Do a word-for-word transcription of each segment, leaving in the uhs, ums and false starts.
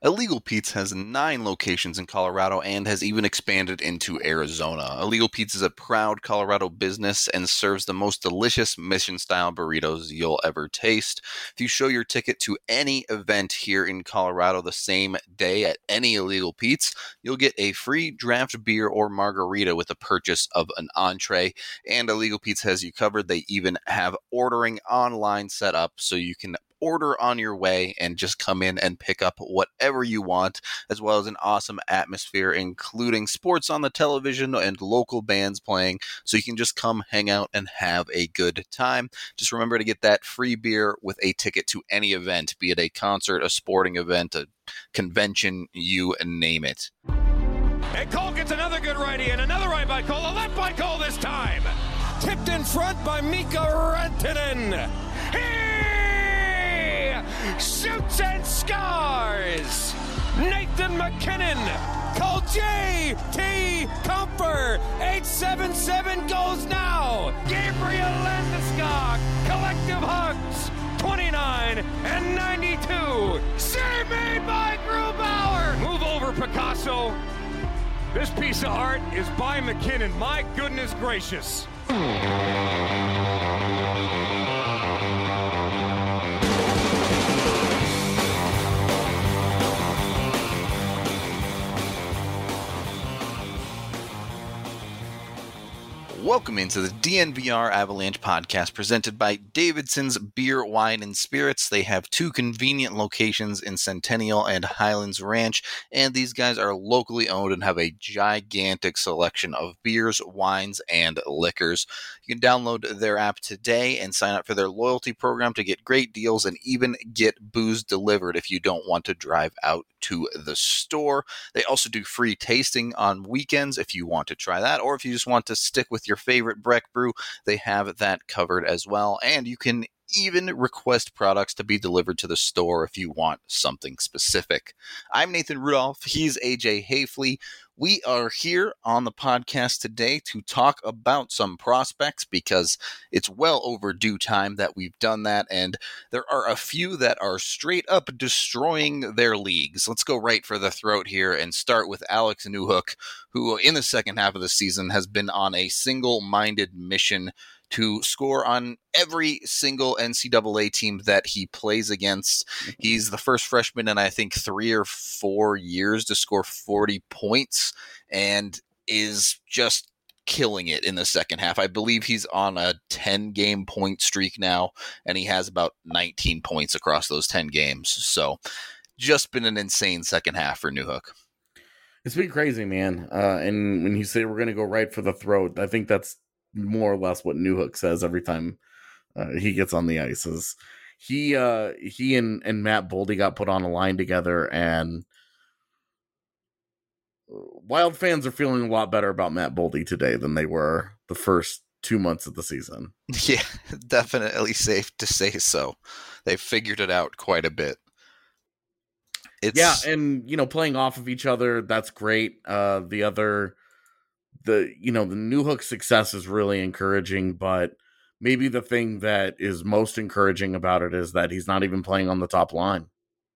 Illegal Pete's has nine locations in Colorado and has even expanded into Arizona. Illegal Pete's is a proud Colorado business and serves the most delicious mission-style burritos you'll ever taste. If you show your ticket to any event here in Colorado the same day at any Illegal Pete's, you'll get a free draft beer or margarita with the purchase of an entree. And Illegal Pete's has you covered. They even have ordering online set up so you can order on your way and just come in and pick up whatever you want, as well as an awesome atmosphere, including sports on the television and local bands playing, so you can just come hang out and have a good time. Just remember to get that free beer with a ticket to any event, be it a concert, a sporting event, a convention, you name it. And Cole gets another good righty, and another right by Cole, a left by Cole this time. Tipped in front by Mika Rantanen. Shoots and scores! Nathan MacKinnon! Call J T Comfer! eight seven seven goes now! Gabriel Landeskog! Collective hugs! twenty-nine and ninety-two! Save made by Grubauer! Move over, Picasso! This piece of art is by MacKinnon. My goodness gracious! Welcome into the D N V R Avalanche podcast presented by Davidson's Beer, Wine, and Spirits. They have two convenient locations in Centennial and Highlands Ranch, and these guys are locally owned and have a gigantic selection of beers, wines, and liquors. You can download their app today and sign up for their loyalty program to get great deals and even get booze delivered if you don't want to drive out to the store. They also do free tasting on weekends if you want to try that, or if you just want to stick with your favorite Breck brew, they have that covered as well. And you can even request products to be delivered to the store if you want something specific. I'm Nathan Rudolph. He's A J Hafley. We are here on the podcast today to talk about some prospects because it's well overdue time that we've done that, and there are a few that are straight up destroying their leagues. Let's go right for the throat here and start with Alex Newhook, who in the second half of the season has been on a single-minded mission to score on every single N C double A team that he plays against. He's the first freshman in, I think, three or four years to score forty points and is just killing it in the second half. I believe he's on a ten-game point streak now, and he has about nineteen points across those ten games. So just been an insane second half for Newhook. It's been crazy, man. Uh, and when you say we're going to go right for the throat, I think that's more or less what Newhook says every time uh, he gets on the ice. Is he uh, he and, and Matt Boldy got put on a line together, and Wild fans are feeling a lot better about Matt Boldy today than they were the first two months of the season. Yeah, definitely safe to say so. They figured it out quite a bit. It's... Yeah, and you know, playing off of each other, that's great. Uh, the other. The you know the Newhook success is really encouraging, but maybe the thing that is most encouraging about it is that he's not even playing on the top line.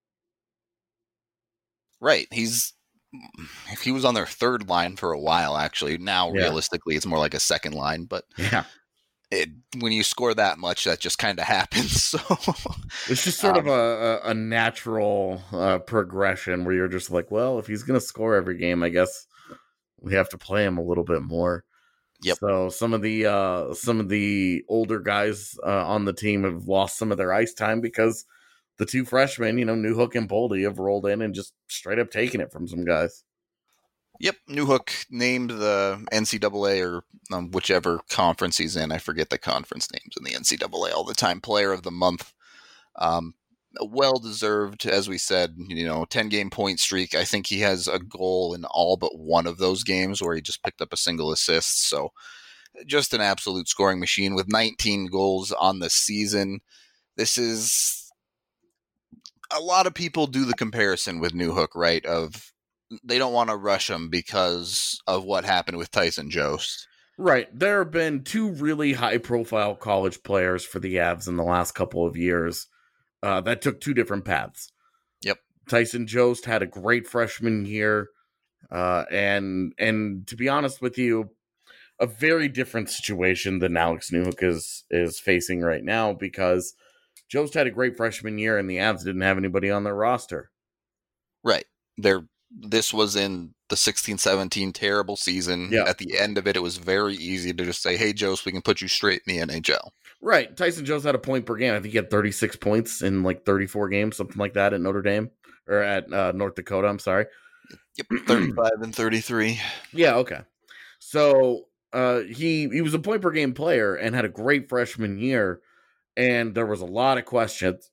Right, he's if he was on their third line for a while, actually. Now, yeah. Realistically, it's more like a second line, but yeah, it, when you score that much, that just kind of happens. So it's just sort um, of a, a, a natural uh, progression where you're just like, well, if he's going to score every game, I guess we have to play him a little bit more. Yep. So some of the uh, some of the older guys uh, on the team have lost some of their ice time because the two freshmen, you know, Newhook and Boldy, have rolled in and just straight up taken it from some guys. Yep, Newhook named the N C double A or um, whichever conference he's in. I forget the conference names in the N C double A all the time. Player of the month. Um, well-deserved, as we said, you know, ten-game point streak. I think he has a goal in all but one of those games where he just picked up a single assist. So just an absolute scoring machine with nineteen goals on the season. This is... A lot of people do the comparison with Newhook, right, of they don't want to rush him because of what happened with Tyson Jost. Right. There have been two really high-profile college players for the Avs in the last couple of years Uh, that took two different paths. Yep. Tyson Jost had a great freshman year. Uh, and and to be honest with you, a very different situation than Alex Newhook is is facing right now, because Jost had a great freshman year and the Avs didn't have anybody on their roster. Right. There. This was in the sixteen seventeen terrible season. Yeah. At the end of it, it was very easy to just say, hey, Jost, we can put you straight in the N H L. Right. Tyson Jost had a point per game. I think he had thirty-six points in like thirty-four games, something like that at Notre Dame or at uh, North Dakota. I'm sorry. Yep. thirty-five and thirty-three. Yeah. Okay. So uh, he, he was a point per game player and had a great freshman year. And there was a lot of questions.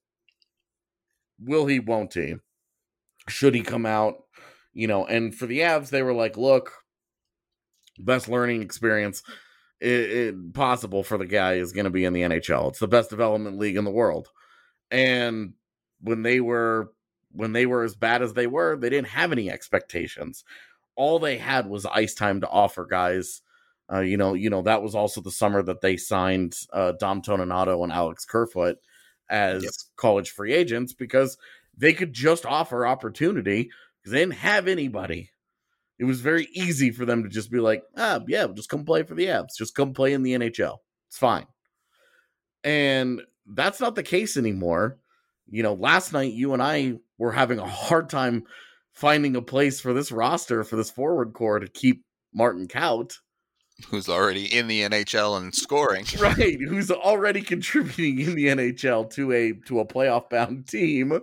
Will he, won't he? Should he come out? You know, and for the Avs, they were like, look, best learning experience it, it, possible for the guy is going to be in the N H L. It's the best development league in the world. And when they were when they were as bad as they were, they didn't have any expectations. All they had was ice time to offer guys. Uh, you know, you know that was also the summer that they signed uh, Dom Toninato and Alex Kerfoot as yep. college free agents, because they could just offer opportunity because they didn't have anybody. It was very easy for them to just be like, ah, yeah, just come play for the Avs. Just come play in the N H L. It's fine. And that's not the case anymore. You know, last night you and I were having a hard time finding a place for this roster, for this forward core to keep Martin Kaut, who's already in the N H L and scoring. Right, who's already contributing in the N H L to a to a playoff bound team.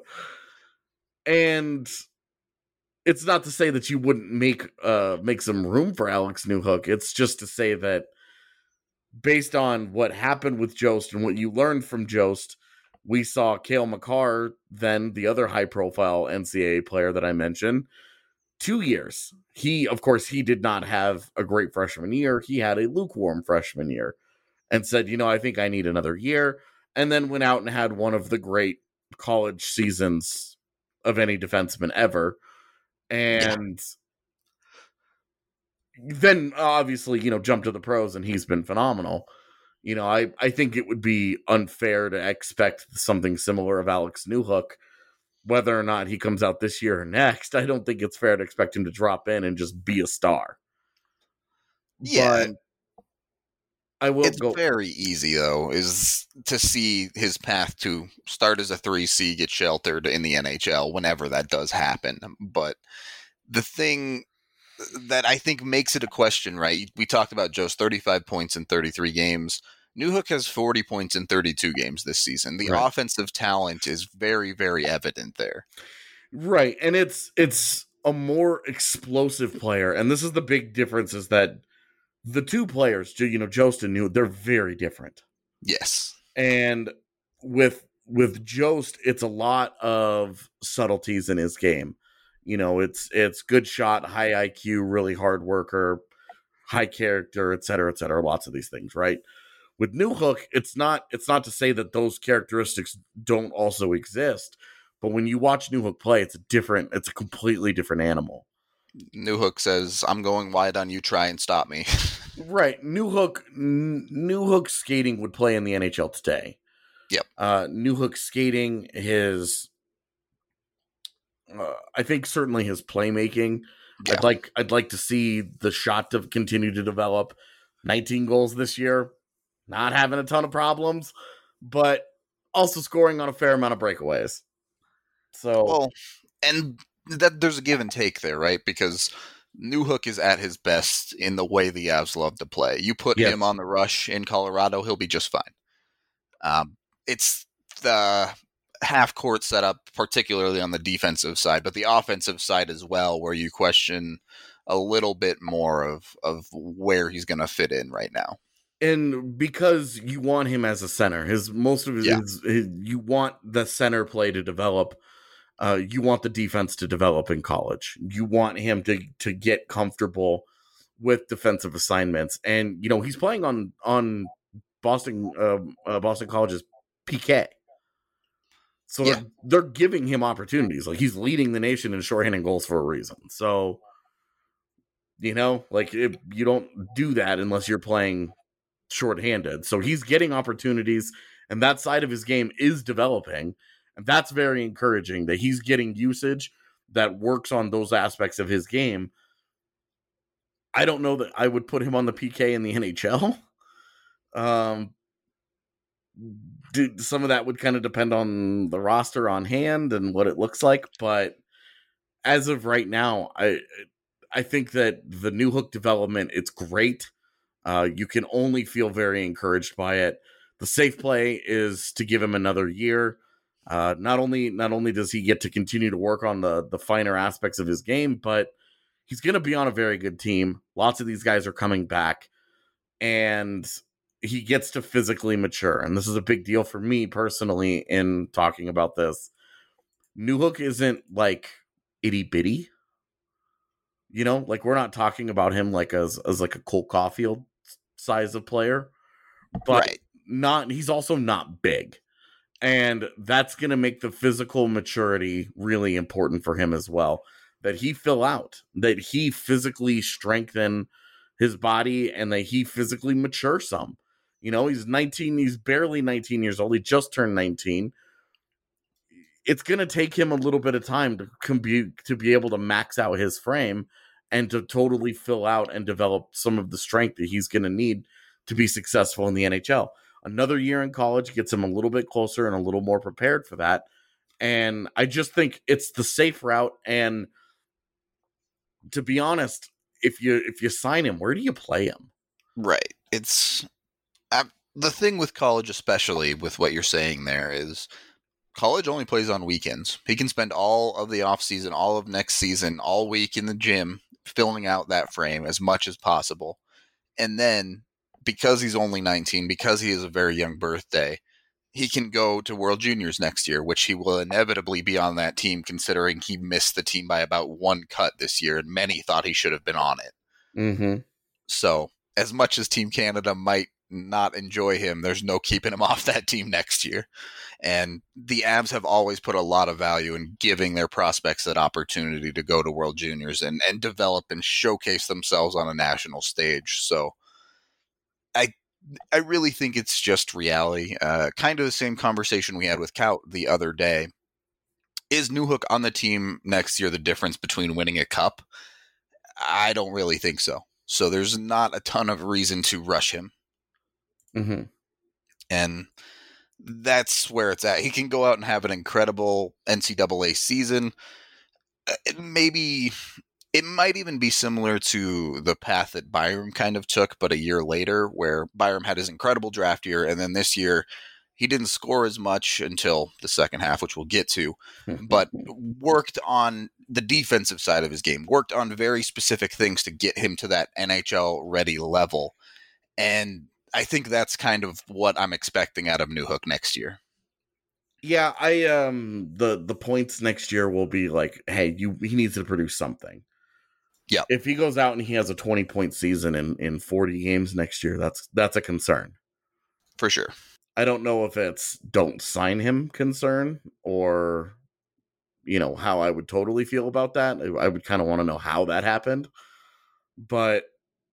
And it's not to say that you wouldn't make uh make some room for Alex Newhook. It's just to say that based on what happened with Jost and what you learned from Jost, we saw Cale Makar, then the other high-profile N C double A player that I mentioned, two years. He, of course, he did not have a great freshman year. He had a lukewarm freshman year and said, you know, I think I need another year. And then went out and had one of the great college seasons of any defenseman ever. And yeah. then obviously, you know, jumped to the pros and he's been phenomenal. You know, I, I think it would be unfair to expect something similar of Alex Newhook. Whether or not he comes out this year or next, I don't think it's fair to expect him to drop in and just be a star. Yeah. But I will it's go. very easy, though, is to see his path to start as a three C, get sheltered in the N H L whenever that does happen. But the thing that I think makes it a question, right? We talked about Joe's thirty-five points in thirty-three games. Newhook has forty points in thirty-two games this season. The right. offensive talent is very, very evident there. Right. And it's it's a more explosive player. And this is the big difference, is that the two players, you know, Jost and Newhook, they're very different. Yes. And with with Jost, it's a lot of subtleties in his game. You know, it's it's good shot, high I Q, really hard worker, high character, et cetera, et cetera. Lots of these things, right? With Newhook, it's not it's not to say that those characteristics don't also exist, but when you watch Newhook play, it's a different, it's a completely different animal. Newhook says, "I'm going wide on you. Try and stop me." Right, Newhook. N- Newhook skating would play in the N H L today. Yep. Uh, Newhook skating, his, uh, I think certainly his playmaking. Yeah. I'd like I'd like to see the shot to continue to develop. nineteen goals this year. Not having a ton of problems, but also scoring on a fair amount of breakaways. So, well, and that there's a give and take there, right? Because Newhook is at his best in the way the Avs love to play. You put yes. him on the rush in Colorado, he'll be just fine. Um, it's the half-court setup, particularly on the defensive side, but the offensive side as well, where you question a little bit more of, of where he's going to fit in right now. And because you want him as a center, his most of his, yeah. his, his you want the center play to develop. Uh, you want the defense to develop in college. You want him to to get comfortable with defensive assignments. And you know he's playing on on Boston uh, uh, Boston College's P K, so yeah. they're, they're giving him opportunities. Like he's leading the nation in shorthanded goals for a reason. So you know, like if you don't do that unless you're playing shorthanded. So he's getting opportunities, and that side of his game is developing. And that's very encouraging that he's getting usage that works on those aspects of his game. I don't know that I would put him on the P K in the N H L. Um, do, some of that would kind of depend on the roster on hand and what it looks like. But as of right now, I I think that the Newhook development, it's great. Uh, you can only feel very encouraged by it. The safe play is to give him another year. Uh, not only not only does he get to continue to work on the the finer aspects of his game, but he's going to be on a very good team. Lots of these guys are coming back, and he gets to physically mature. And this is a big deal for me personally in talking about this. Newhook isn't like itty bitty, you know, like we're not talking about him like as as like a Cole Caulfield size of player, but Right. not. He's also not big. And that's going to make the physical maturity really important for him as well. That he fill out, that he physically strengthen his body, and that he physically mature some. You know, he's nineteen, he's barely nineteen years old. He just turned nineteen. It's going to take him a little bit of time to, com- to be able to max out his frame and to totally fill out and develop some of the strength that he's going to need to be successful in the N H L. Another year in college gets him a little bit closer and a little more prepared for that. And I just think it's the safe route. And to be honest, if you if you sign him, where do you play him? Right. It's uh, the thing with college, especially with what you're saying there, is college only plays on weekends. He can spend all of the offseason, all of next season, all week in the gym, filling out that frame as much as possible. And then, because he's only nineteen, because he has a very young birthday, he can go to World Juniors next year, which he will inevitably be on that team, considering he missed the team by about one cut this year, and many thought he should have been on it. Mm-hmm. So, as much as Team Canada might not enjoy him, there's no keeping him off that team next year. And the Avs have always put a lot of value in giving their prospects that opportunity to go to World Juniors and, and develop and showcase themselves on a national stage. So, I I really think it's just reality. Uh, kind of the same conversation we had with Kaut the other day. Is Newhook on the team next year the difference between winning a cup? I don't really think so. So there's not a ton of reason to rush him. Mm-hmm. And that's where it's at. He can go out and have an incredible N C double A season. Maybe it might even be similar to the path that Byram kind of took, but a year later, where Byram had his incredible draft year, and then this year he didn't score as much until the second half, which we'll get to, but worked on the defensive side of his game, worked on very specific things to get him to that N H L-ready level. And I think that's kind of what I'm expecting out of Newhook next year. Yeah, I um the the points next year will be like, hey, you he needs to produce something. Yeah. If he goes out and he has a twenty point season in, in forty games next year, that's that's a concern. For sure. I don't know if it's don't sign him concern or, you know, how I would totally feel about that. I would kind of want to know how that happened. But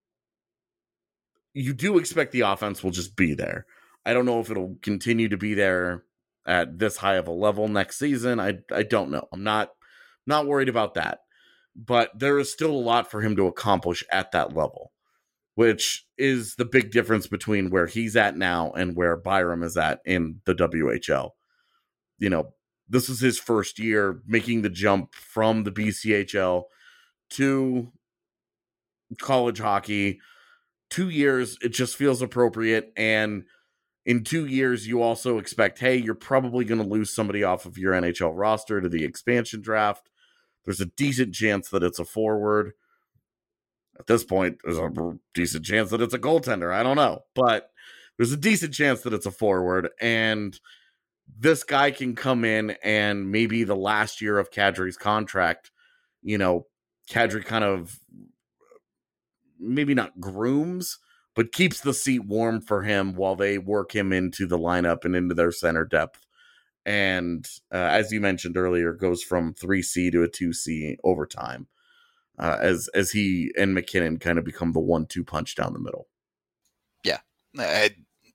you do expect the offense will just be there. I don't know if it'll continue to be there at this high of a level next season. I I don't know. I'm not not worried about that. But there is still a lot for him to accomplish at that level, which is the big difference between where he's at now and where Byram is at in the W H L. You know, this is his first year making the jump from the B C H L to college hockey. Two years, it just feels appropriate. And in two years, you also expect, hey, you're probably going to lose somebody off of your N H L roster to the expansion draft. There's a decent chance that it's a forward. At this point, there's a decent chance that it's a goaltender. I don't know. But there's a decent chance that it's a forward. And this guy can come in and maybe the last year of Kadri's contract, you know, Kadri kind of maybe not grooms, but keeps the seat warm for him while they work him into the lineup and into their center depth. And uh, as you mentioned earlier, goes from three C to a two C over time uh, as as he and McKinnon kind of become the one two punch down the middle. Yeah. I,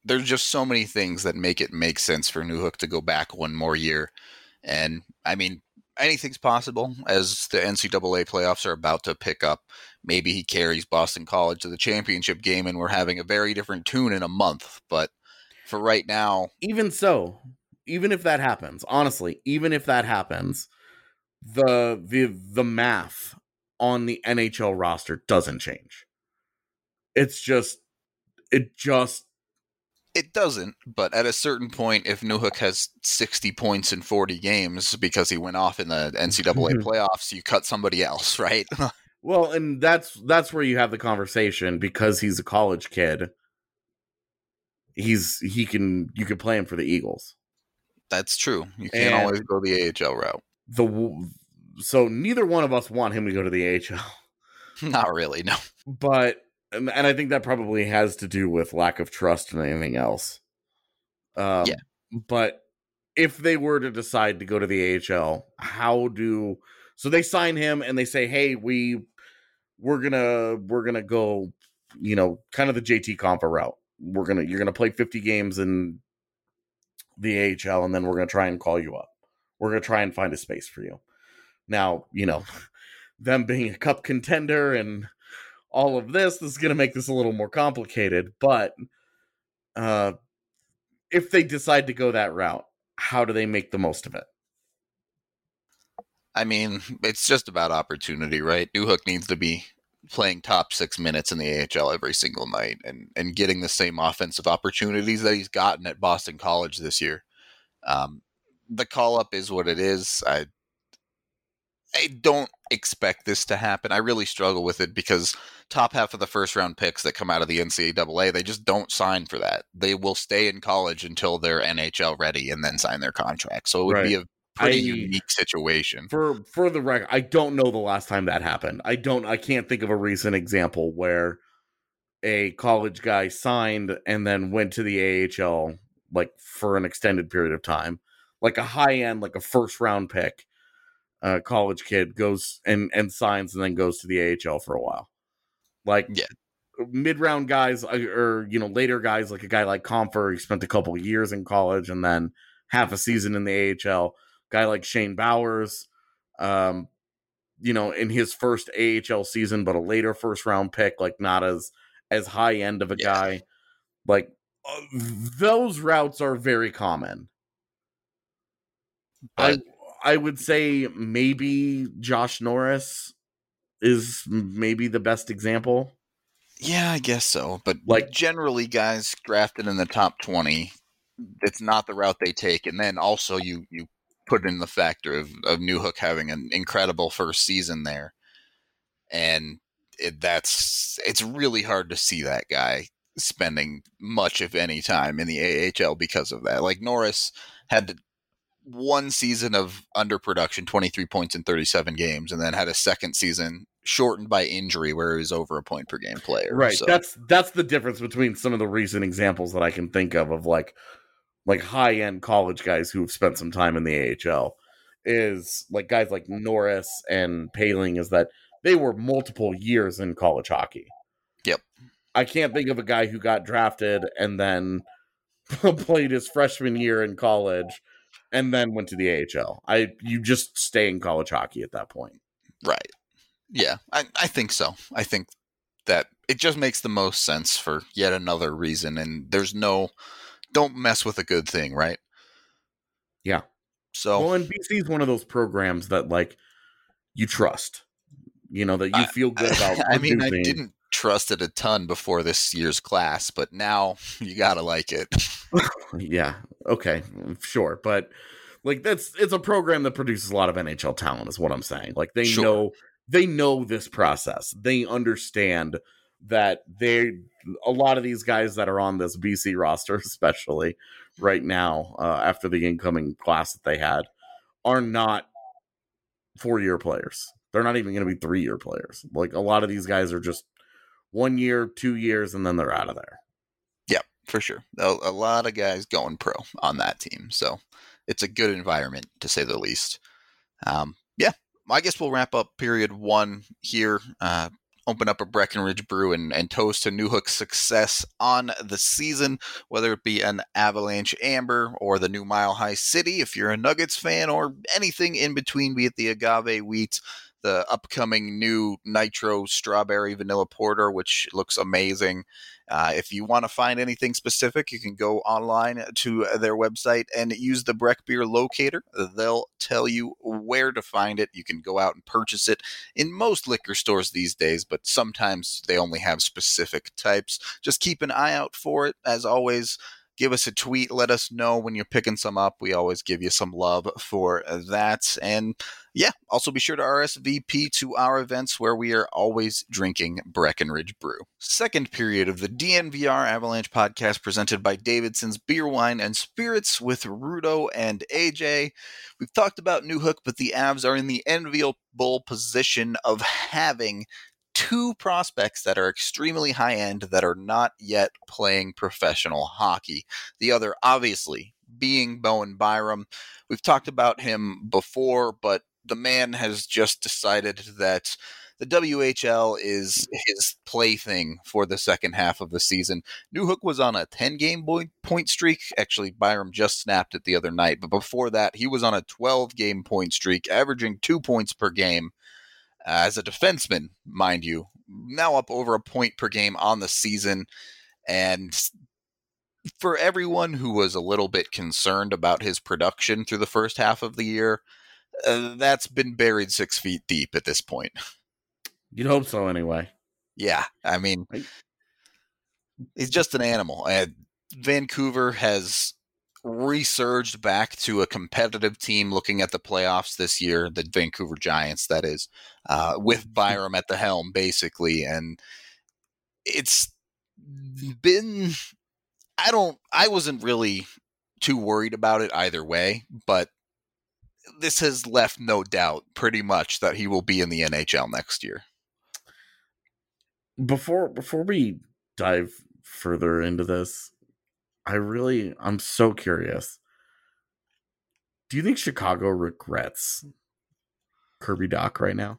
there's just so many things that make it make sense for Newhook to go back one more year. And I mean, anything's possible as the N C double A playoffs are about to pick up. Maybe he carries Boston College to the championship game and we're having a very different tune in a month. But for right now, even so, even if that happens, honestly, even if that happens, the the the math on the N H L roster doesn't change. It's just it just It doesn't, but at a certain point, if Newhook has sixty points in forty games because he went off in the N C double A playoffs, you cut somebody else, right? Well, and that's that's where you have the conversation because he's a college kid. He's he can you can play him for the Eagles. That's true. You can't And always go the A H L route. The so neither one of us want him to go to the A H L. Not really, no. But and, and I think that probably has to do with lack of trust and anything else. Um, yeah. But if they were to decide to go to the A H L, how do so they sign him and they say, "Hey, we we're gonna we're gonna go, you know, kind of the J T Compa route. We're gonna you're gonna play fifty games in the A H L, and then we're gonna try and call you up. We're gonna try and find a space for you." Now, you know, them being a cup contender and all of this, this is going to make this a little more complicated. But uh, if they decide to go that route, how do they make the most of it? I mean, it's just about opportunity, right? Newhook needs to be playing top six minutes in the A H L every single night and, and getting the same offensive opportunities that he's gotten at Boston College this year. Um, the call-up is what it is. I I don't expect this to happen. I really struggle with it because top half of the first round picks that come out of the N C double A, they just don't sign for that. They will stay in college until they're N H L ready and then sign their contract. So it would Right. be a pretty I, unique situation. For for the record, I don't know the last time that happened. I don't I can't think of a recent example where a college guy signed and then went to the A H L like for an extended period of time. Like a high end, like a first round pick. Uh, college kid goes and, and signs and then goes to the A H L for a while. Like yeah. mid round guys or, you know, later guys like a guy like Comfer, he spent a couple of years in college and then half a season in the A H L. Guy like Shane Bowers, um, you know, in his first A H L season, but a later first round pick, like not as as high end of a yeah. guy. Like uh, those routes are very common. But- I I would say maybe Josh Norris is maybe the best example. Yeah, I guess so. But Like- generally, guys drafted in the top twenty, it's not the route they take. And then also you you put in the factor of, of Newhook having an incredible first season there. And it, that's it's really hard to see that guy spending much, if any, time in the A H L because of that. Like Norris had to one season of underproduction, twenty-three points in thirty-seven games, and then had a second season shortened by injury where he was over a point per game player. Right. So. That's that's the difference between some of the recent examples that I can think of of like like high end college guys who have spent some time in the A H L is like guys like Norris and Paling is that they were multiple years in college hockey. Yep. I can't think of a guy who got drafted and then played his freshman year in college and then went to the A H L. I you just stay in college hockey at that point. Right. Yeah, I, I think so. I think that it just makes the most sense for yet another reason. And there's no, don't mess with a good thing, right? Yeah. So, well, and B C is one of those programs that like you trust, you know, that you I, feel good about. I mean, I producing. didn't trust it a ton before this year's class, but now you gotta like it. Yeah. Okay. Sure. But like that's it's a program that produces a lot of N H L talent, is what I'm saying. Like they Sure. know they know this process. They understand that they a lot of these guys that are on this B C roster, especially right now, uh, after the incoming class that they had, are not four year players. They're not even going to be three year players. Like a lot of these guys are just one year, two years, and then they're out of there. Yep, for sure. A, a lot of guys going pro on that team. So it's a good environment, to say the least. Um, yeah, I guess we'll wrap up period one here. Uh, open up a Breckenridge brew and, and toast to Newhook's success on the season, whether it be an Avalanche Amber or the new Mile High City, if you're a Nuggets fan, or anything in between, be it the Agave Wheat, the upcoming new Nitro Strawberry Vanilla Porter, which looks amazing. Uh, if you want to find anything specific, you can go online to their website and use the Breck Beer Locator. They'll tell you where to find it. You can go out and purchase it in most liquor stores these days, but sometimes they only have specific types. Just keep an eye out for it. As always, give us a tweet. Let us know when you're picking some up. We always give you some love for that. And yeah, also be sure to R S V P to our events where we are always drinking Breckenridge Brew. Second period of the D N V R Avalanche podcast presented by Davidson's Beer, Wine, and Spirits with Rudo and A J. We've talked about Newhook, but the Avs are in the enviable position of having two prospects that are extremely high-end that are not yet playing professional hockey. The other, obviously, being Bowen Byram. We've talked about him before, but the man has just decided that the W H L is his plaything for the second half of the season. Newhook was on a ten-game point streak. Actually, Byram just snapped it the other night, but before that, he was on a twelve-game point streak, averaging two points per game. Uh, as a defenseman, mind you, now up over a point per game on the season. And for everyone who was a little bit concerned about his production through the first half of the year, uh, that's been buried six feet deep at this point. You'd hope so anyway. Yeah, I mean, he's just an animal. And Vancouver has resurged back to a competitive team looking at the playoffs this year, the Vancouver Giants, that is, uh, with Byram at the helm, basically. And it's been, I don't, I wasn't really too worried about it either way, but this has left no doubt pretty much that he will be in the N H L next year. Before, before we dive further into this, I really, I'm so curious. Do you think Chicago regrets Kirby Dach right now?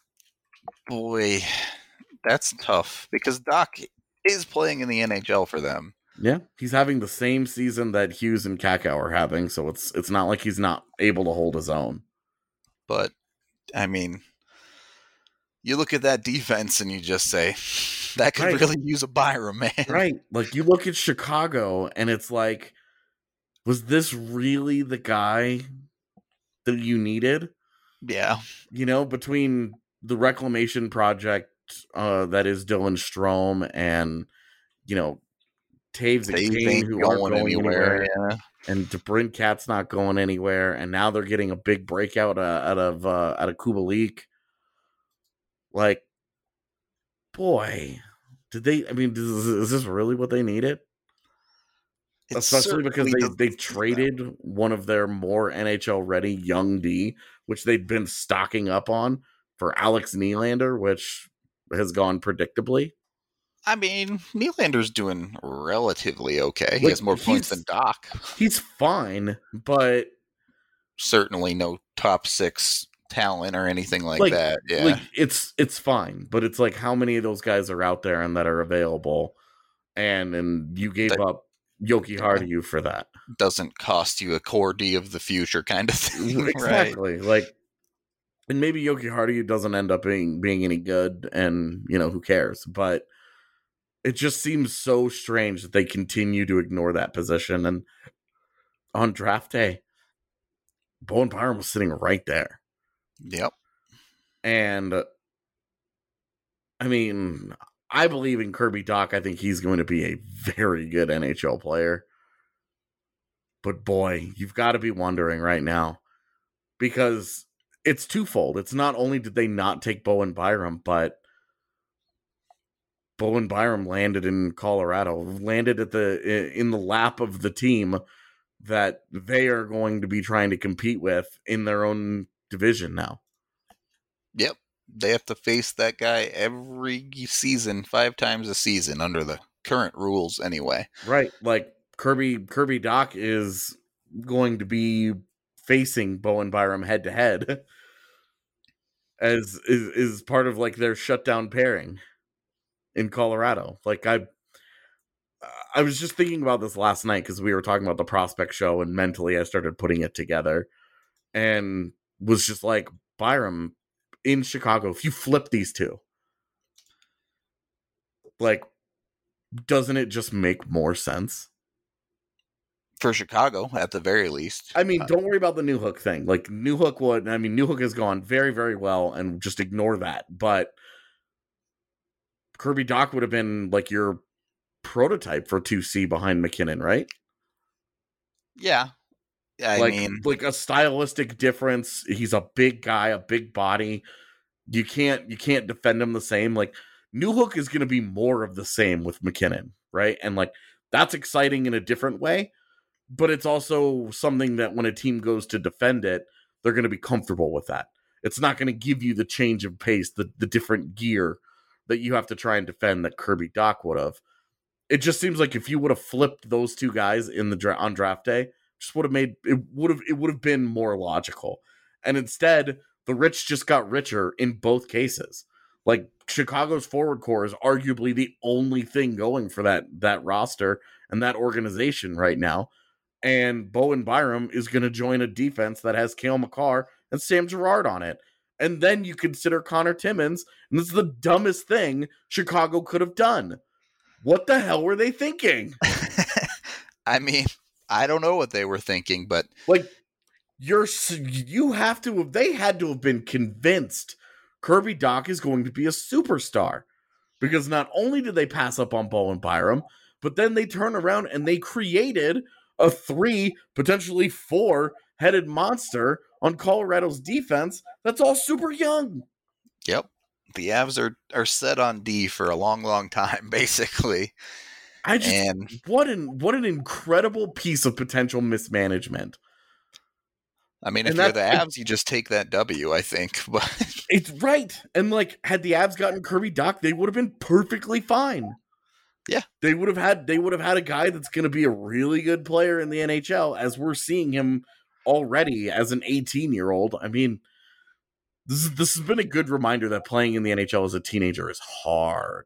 Boy, that's tough because Dach is playing in the N H L for them. Yeah, he's having the same season that Hughes and Kakao are having, so it's it's not like he's not able to hold his own. But, I mean, you look at that defense and you just say, that could right. really use a Byram, man. Right. Like, you look at Chicago and it's like, was this really the guy that you needed? Yeah. You know, between the reclamation project uh, that is Dylan Strome and, you know, Taves and Taves Kane, ain't who going aren't going anywhere, anywhere. Yeah. And DeBrincat's not going anywhere. And now they're getting a big breakout uh, out of uh, out of Kubalik. Like, boy, did they? I mean, is, is this really what they needed? It Especially because certainly they doesn't they seem traded that way. one of their more N H L ready young D, which they'd been stocking up on, for Alex Nylander, which has gone predictably. I mean, Nylander's doing relatively okay. He Like, has more points he's- than Doc. He's fine, but Certainly no top six talent or anything like, Like- that. Yeah. like it's it's fine. But it's like, how many of those guys are out there and that are available? And and you gave That- up Yoki Yeah. Hardy for that. Doesn't cost you a core D of the future kind of thing. Right. Exactly. Like, and maybe Yoki Hardy doesn't end up being being any good, and you know, who cares? But it just seems so strange that they continue to ignore that position. And on draft day, Bowen Byram was sitting right there. Yep. And uh, I mean, I believe in Kirby Dach. I think he's going to be a very good N H L player. But boy, you've got to be wondering right now, because it's twofold. It's not only did they not take Bowen Byram, but Bowen Byram landed in Colorado, landed at the in the lap of the team that they are going to be trying to compete with in their own division now. Yep. They have to face that guy every season, five times a season under the current rules anyway. Right. Like Kirby Kirby Dach is going to be facing Bowen Byram head to head. as is, is part of like their shutdown pairing in Colorado. Like I, I was just thinking about this last night because we were talking about the prospect show, and mentally I started putting it together, and was just like, Byram in Chicago, if you flip these two, like, doesn't it just make more sense? For Chicago, at the very least. I mean, don't worry about the Newhook thing. Like, Newhook would, I mean, Newhook has gone very, very well, and just ignore that. But Kirby Dach would have been, like, your prototype for two C behind McKinnon, right? Yeah. I like, mean... Like, a stylistic difference. He's a big guy, a big body. You can't, you can't defend him the same. Like, Newhook is going to be more of the same with McKinnon, right? And, like, that's exciting in a different way. But it's also something that when a team goes to defend it, they're going to be comfortable with that. It's not going to give you the change of pace, the, the different gear that you have to try and defend that Kirby Dach would have. It just seems like if you would have flipped those two guys in the dra- on draft day, just would have made it would have it would have been more logical. And instead, the rich just got richer in both cases. Like, Chicago's forward core is arguably the only thing going for that that roster and that organization right now. And Bowen Byram is going to join a defense that has Cale Makar and Sam Girard on it. And then you consider Connor Timmins, and this is the dumbest thing Chicago could have done. What the hell were they thinking? I mean, I don't know what they were thinking, but... Like, you're, you have to have, they had to have been convinced Kirby Dach is going to be a superstar. Because not only did they pass up on Bowen Byram, but then they turn around and they created a three, potentially four-headed monster on Colorado's defense that's all super young. Yep. The Avs are, are set on D for a long, long time, basically. I just, and, what an what an incredible piece of potential mismanagement. I mean, if and you're the Avs, you just take that W, I think. But it's right. And, like, had the Avs gotten Kirby Dach, they would have been perfectly fine. Yeah. They would have had they would have had a guy that's going to be a really good player in the N H L, as we're seeing him already as an eighteen-year-old. I mean, this is this has been a good reminder that playing in the N H L as a teenager is hard.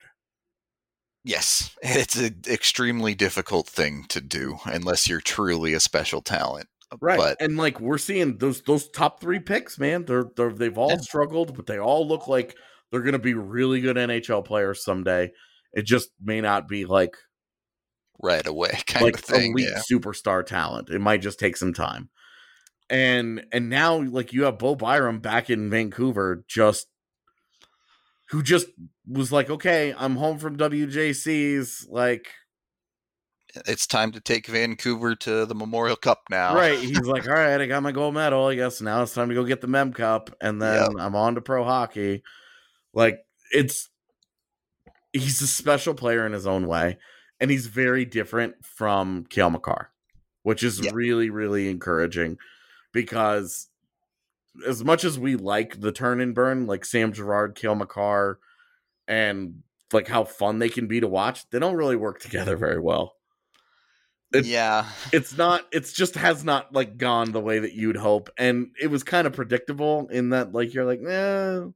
Yes, it's an extremely difficult thing to do unless you're truly a special talent. Right. But, and like, we're seeing those those top three picks, man, they're, they're they've all yeah. struggled, but they all look like they're going to be really good N H L players someday. It just may not be like right away kind like of thing. Elite yeah. superstar talent. It might just take some time. And and now, like, you have Bo Byram back in Vancouver, just who just was like, okay, I'm home from W J C's. Like, it's time to take Vancouver to the Memorial Cup now. Right. He's like, all right, I got my gold medal. I guess now it's time to go get the Mem Cup, and then yep. I'm on to pro hockey. Like, it's. He's a special player in his own way, and he's very different from Cale Makar, which is yeah. really, really encouraging, because as much as we like the turn and burn, like Sam Girard, Cale Makar, and like how fun they can be to watch, they don't really work together very well. It, yeah. It's not, it's just has not like gone the way that you'd hope. And it was kind of predictable in that, like, you're like, eh.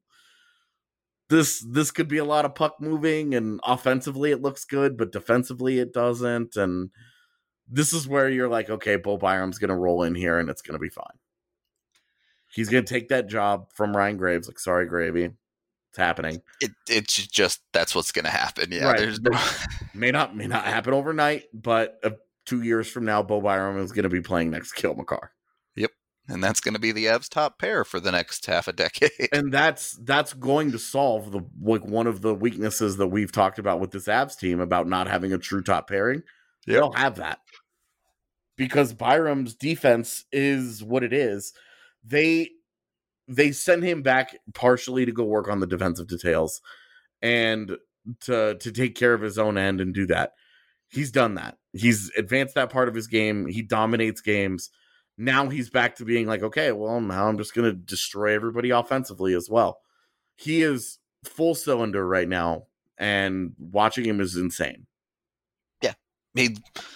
This this could be a lot of puck moving, and offensively it looks good, but defensively it doesn't. And this is where you're like, okay, Bo Byram's going to roll in here, and it's going to be fine. He's going to take that job from Ryan Graves. Like, sorry, Gravy. It's happening. It It's just, that's what's going to happen. Yeah, right. There's no... may not may not happen overnight, but uh, two years from now, Bo Byram is going to be playing next to Cale Makar. Yep. And that's going to be the Avs' top pair for the next half a decade. And that's that's going to solve the like one of the weaknesses that we've talked about with this Avs team about not having a true top pairing. Yep. They'll have that. Because Byram's defense is what it is. They they sent him back partially to go work on the defensive details and to to take care of his own end and do that. He's done that. He's advanced that part of his game. He dominates games. Now he's back to being like, okay, well, now I'm just going to destroy everybody offensively as well. He is full cylinder right now, and watching him is insane. Yeah. He,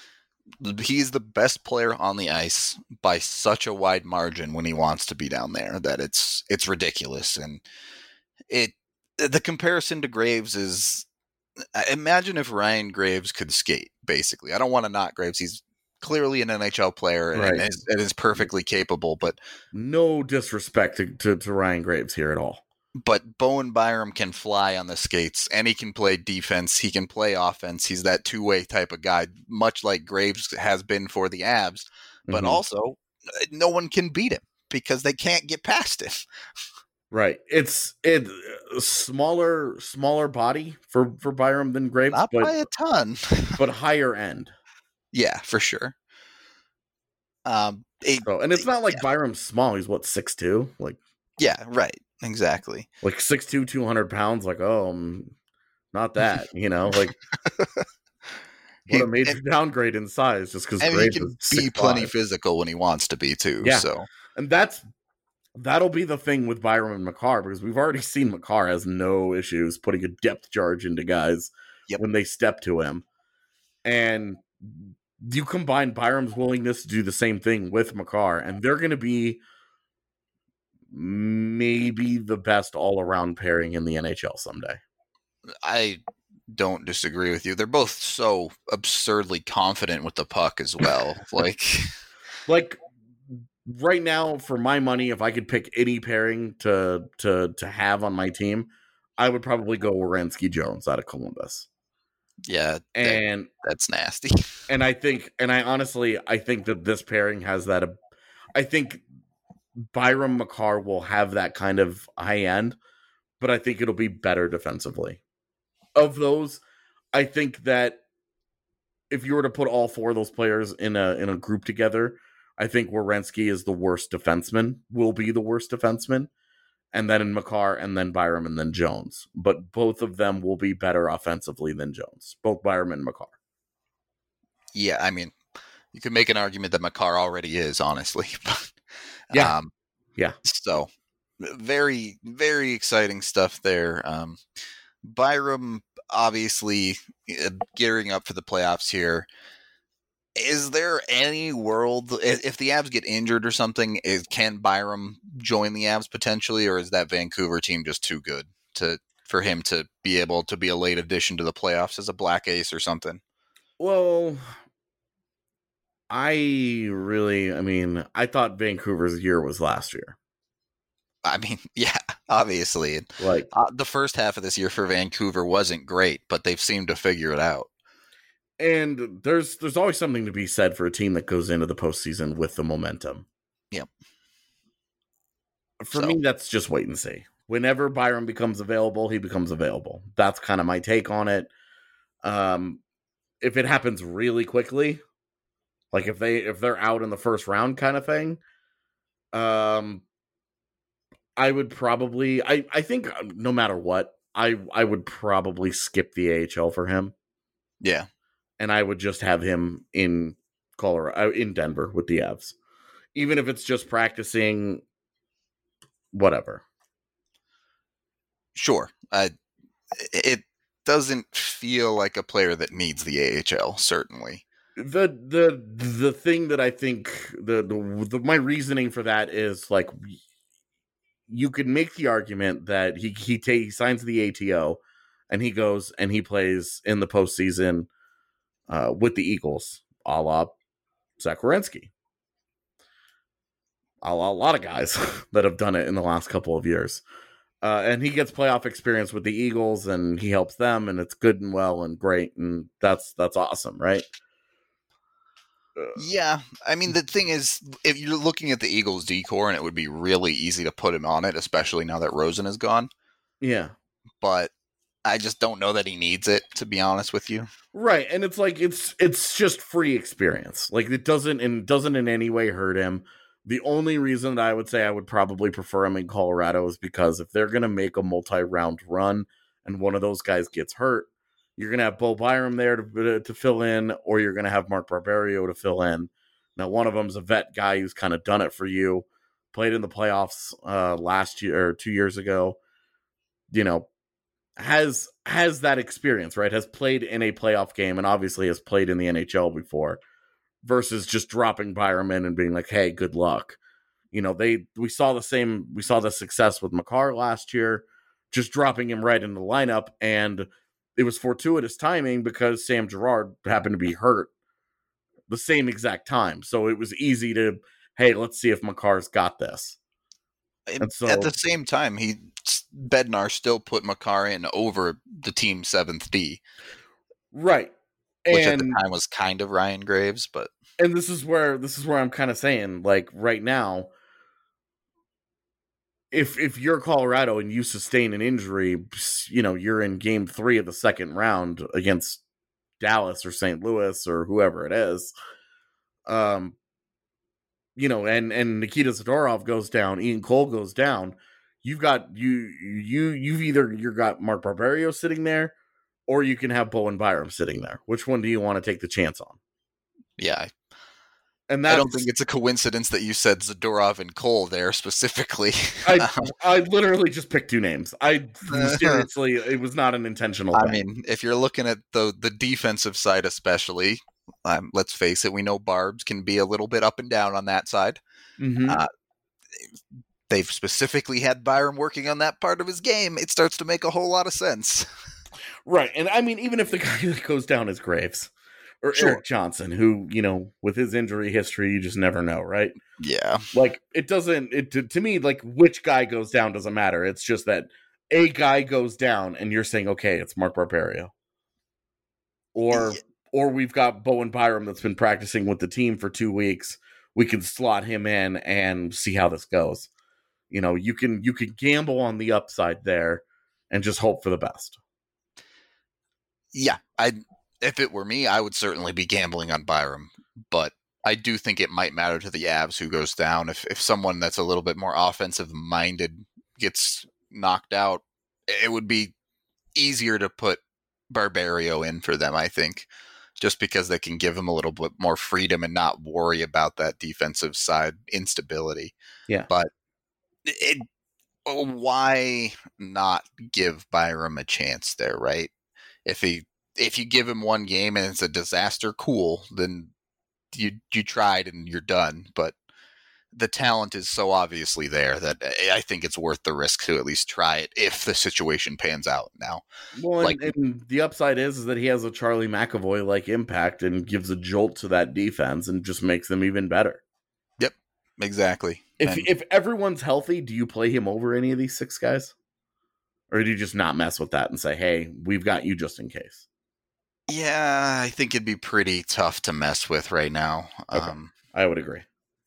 he's the best player on the ice by such a wide margin when he wants to be down there that it's it's ridiculous. And it the comparison to Graves is, imagine if Ryan Graves could skate, basically. I don't want to knock Graves. He's clearly an N H L player and, Right. and, is, and is perfectly capable, but No disrespect to, to, to Ryan Graves here at all. But Bowen Byram can fly on the skates, and he can play defense. He can play offense. He's that two-way type of guy, much like Graves has been for the Avs. But Mhm. also, no one can beat him because they can't get past him. Right. It's it smaller smaller body for, for Byram than Graves, Not but by a ton. but higher end. Yeah, for sure. Um, it, So, and it's not like yeah. Byram's small. He's what, six two? Like yeah, right. Exactly. like six two, two hundred pounds. Like, oh, um, not that, you know, like He- what a major and, downgrade in size just because and he Graves can is be six plenty five. physical when he wants to be, too. Yeah. So, And that's that'll be the thing with Byram and Makar, because we've already seen Makar has no issues putting a depth charge into guys Yep. when they step to him. And you combine Byram's willingness to do the same thing with Makar, and they're going to be maybe the best all-around pairing in the N H L someday. I don't disagree with you. They're both so absurdly confident with the puck as well. like, Like right now, for my money, if I could pick any pairing to to to have on my team, I would probably go Werenski Jones out of Columbus. yeah, that, And that's nasty. and I think and I honestly I think that this pairing has that. I think Byram Makar will have that kind of high end, but I think it'll be better defensively. Of those, I think that if you were to put all four of those players in a in a group together, I think Werenski is the worst defenseman, will be the worst defenseman, and then in Makar, and then Byram, and then Jones. But both of them will be better offensively than Jones, both Byram and Makar. Yeah, I mean, you could make an argument that Makar already is, honestly. But, Yeah. Um, Yeah. So, very, very exciting stuff there. Um, Byram, obviously, uh, gearing up for the playoffs here. Is there any world, if if the Avs get injured or something, is, can Byram join the Avs potentially, or is that Vancouver team just too good to for him to be able to be a late addition to the playoffs as a black ace or something? Well, I really, I mean, I thought Vancouver's year was last year. I mean, yeah, obviously. Like, Uh, the first half of this year for Vancouver wasn't great, but they've seemed to figure it out. and there's there's always something to be said for a team that goes into the postseason with the momentum. Yep. For So- me, that's just wait and see. Whenever Byram becomes available, he becomes available. That's kind of my take on it. Um, if it happens really quickly, like if they if they're out in the first round kind of thing, um, I would probably I I think no matter what, I I would probably skip the A H L for him. Yeah. And I would just have him in Colorado, in Denver with the Avs, even if it's just practicing, whatever. Sure. Uh, it doesn't feel like a player that needs the A H L, certainly. The the the thing that I think the, the the my reasoning for that is like you could make the argument that he he, ta- he signs the A T O and he goes and he plays in the postseason uh, with the Eagles, a la Zach Werenski. A lot, a lot of guys that have done it in the last couple of years. Uh, and he gets playoff experience with the Eagles and he helps them and it's good and well and great. And that's, that's awesome. Right. Uh, Yeah. I mean, the thing is, if you're looking at the Eagles decor, and it would be really easy to put him on it, especially now that Rosen is gone. yeah. But I just don't know that he needs it, to be honest with you. Right. And it's like, it's, it's just free experience. Like it doesn't, and doesn't in any way hurt him. The only reason that I would say I would probably prefer him in Colorado is because if they're going to make a multi-round run and one of those guys gets hurt, you're going to have Bo Byram there to, to fill in, or you're going to have Mark Barberio to fill in. Now, one of them's a vet guy who's kind of done it for you, played in the playoffs uh, last year or two years ago, you know, has has that experience, right? Has played in a playoff game and obviously has played in the N H L before. versus just dropping Byram in and being like, hey, good luck. You know, they we saw the same, we saw the success with Makar last year, just dropping him right in the lineup, and it was fortuitous timing because Sam Girard happened to be hurt the same exact time. So it was easy to, hey, let's see if Makar's got this. And so, at the same time, he Bednar still put Makar in over the team seventh D. Right. Which and, at the time was kind of Ryan Graves, but and this is where this is where I'm kind of saying, like, right now, if if you're Colorado and you sustain an injury, you know, you're in game three of the second round against Dallas or Saint Louis or whoever it is. Um, you know, and and Nikita Zadorov goes down, Ian Cole goes down. You've got you you you've either you got Mark Barberio sitting there, or you can have Bowen Byram sitting there. Which one do you want to take the chance on? Yeah. And I don't think it's a coincidence that you said Zadorov and Cole there specifically. I I literally just picked two names. I seriously, it was not an intentional I thing. mean, if you're looking at the the defensive side especially, um, let's face it, we know Barbs can be a little bit up and down on that side. Mm-hmm. Uh, they've specifically had Byram working on that part of his game. It starts to make a whole lot of sense. Right. And I mean, even if the guy that goes down is Graves or Sure. Eric Johnson, who, you know, with his injury history, you just never know, right? Yeah. Like, it doesn't, it to, to me, like, which guy goes down doesn't matter. It's just that a guy goes down and you're saying, okay, it's Mark Barberio. Or, Yeah. or we've got Bowen Byram that's been practicing with the team for two weeks. We can slot him in and see how this goes. You know, you can, you can gamble on the upside there and just hope for the best. Yeah, I if it were me, I would certainly be gambling on Byram, but I do think it might matter to the Avs who goes down. If if someone that's a little bit more offensive minded gets knocked out, it would be easier to put Barberio in for them, I think, just because they can give him a little bit more freedom and not worry about that defensive side instability. Yeah. But it, why not give Byram a chance there, right? If he if you give him one game and it's a disaster, cool, then you you tried and you're done. But the talent is so obviously there that I think it's worth the risk to at least try it if the situation pans out now. Well, and, like, and the upside is, is that he has a Charlie McAvoy-like impact and gives a jolt to that defense and just makes them even better. Yep, exactly. If and, if everyone's healthy, do you play him over any of these six guys? Or do you just not mess with that and say, hey, we've got you just in case? Yeah, I think it'd be pretty tough to mess with right now. Okay. Um, I would agree.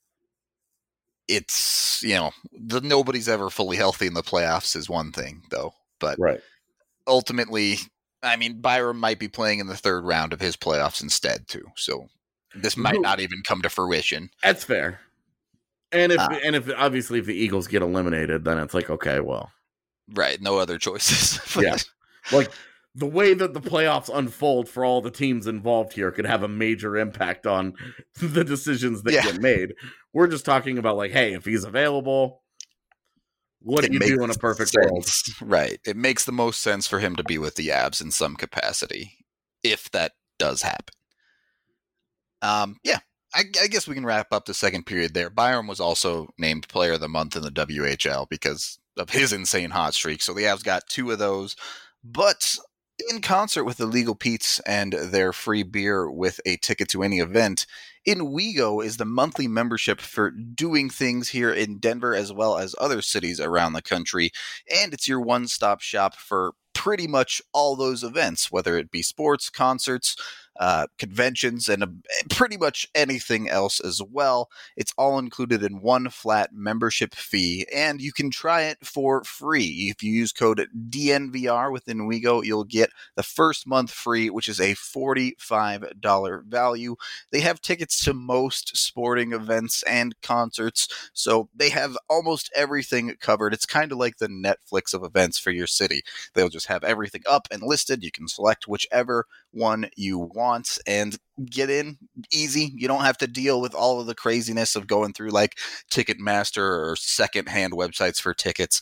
It's, you know, the nobody's ever fully healthy in the playoffs is one thing, though. But right. ultimately, I mean, Byram might be playing in the third round of his playoffs instead, too. So this might not even come to fruition. That's fair. And if uh, and if obviously if the Eagles get eliminated, then it's like, okay, well. Right, no other choices. Yeah. Like, the way that the playoffs unfold for all the teams involved here could have a major impact on the decisions that yeah. get made. We're just talking about, like, hey, if he's available, what it do you do in a perfect sense. world? Right. It makes the most sense for him to be with the Avs in some capacity, if that does happen. Um, yeah, I, I guess we can wrap up the second period there. Byram was also named Player of the Month in the W H L because of his insane hot streak. So the Avs got two of those. But in concert with the Legal Pete's and their free beer with a ticket to any event, InWeGo is the monthly membership for doing things here in Denver as well as other cities around the country. And it's your one-stop shop for pretty much all those events, whether it be sports, concerts, uh, conventions, and uh, pretty much anything else as well. It's all included in one flat membership fee, and you can try it for free. If you use code D N V R within InWeGo, you'll get the first month free, which is a forty-five dollars value. They have tickets to most sporting events and concerts, so they have almost everything covered. It's kind of like the Netflix of events for your city. They'll just have everything up and listed. You can select whichever one you want and get in easy. You don't have to deal with all of the craziness of going through like Ticketmaster or secondhand websites for tickets.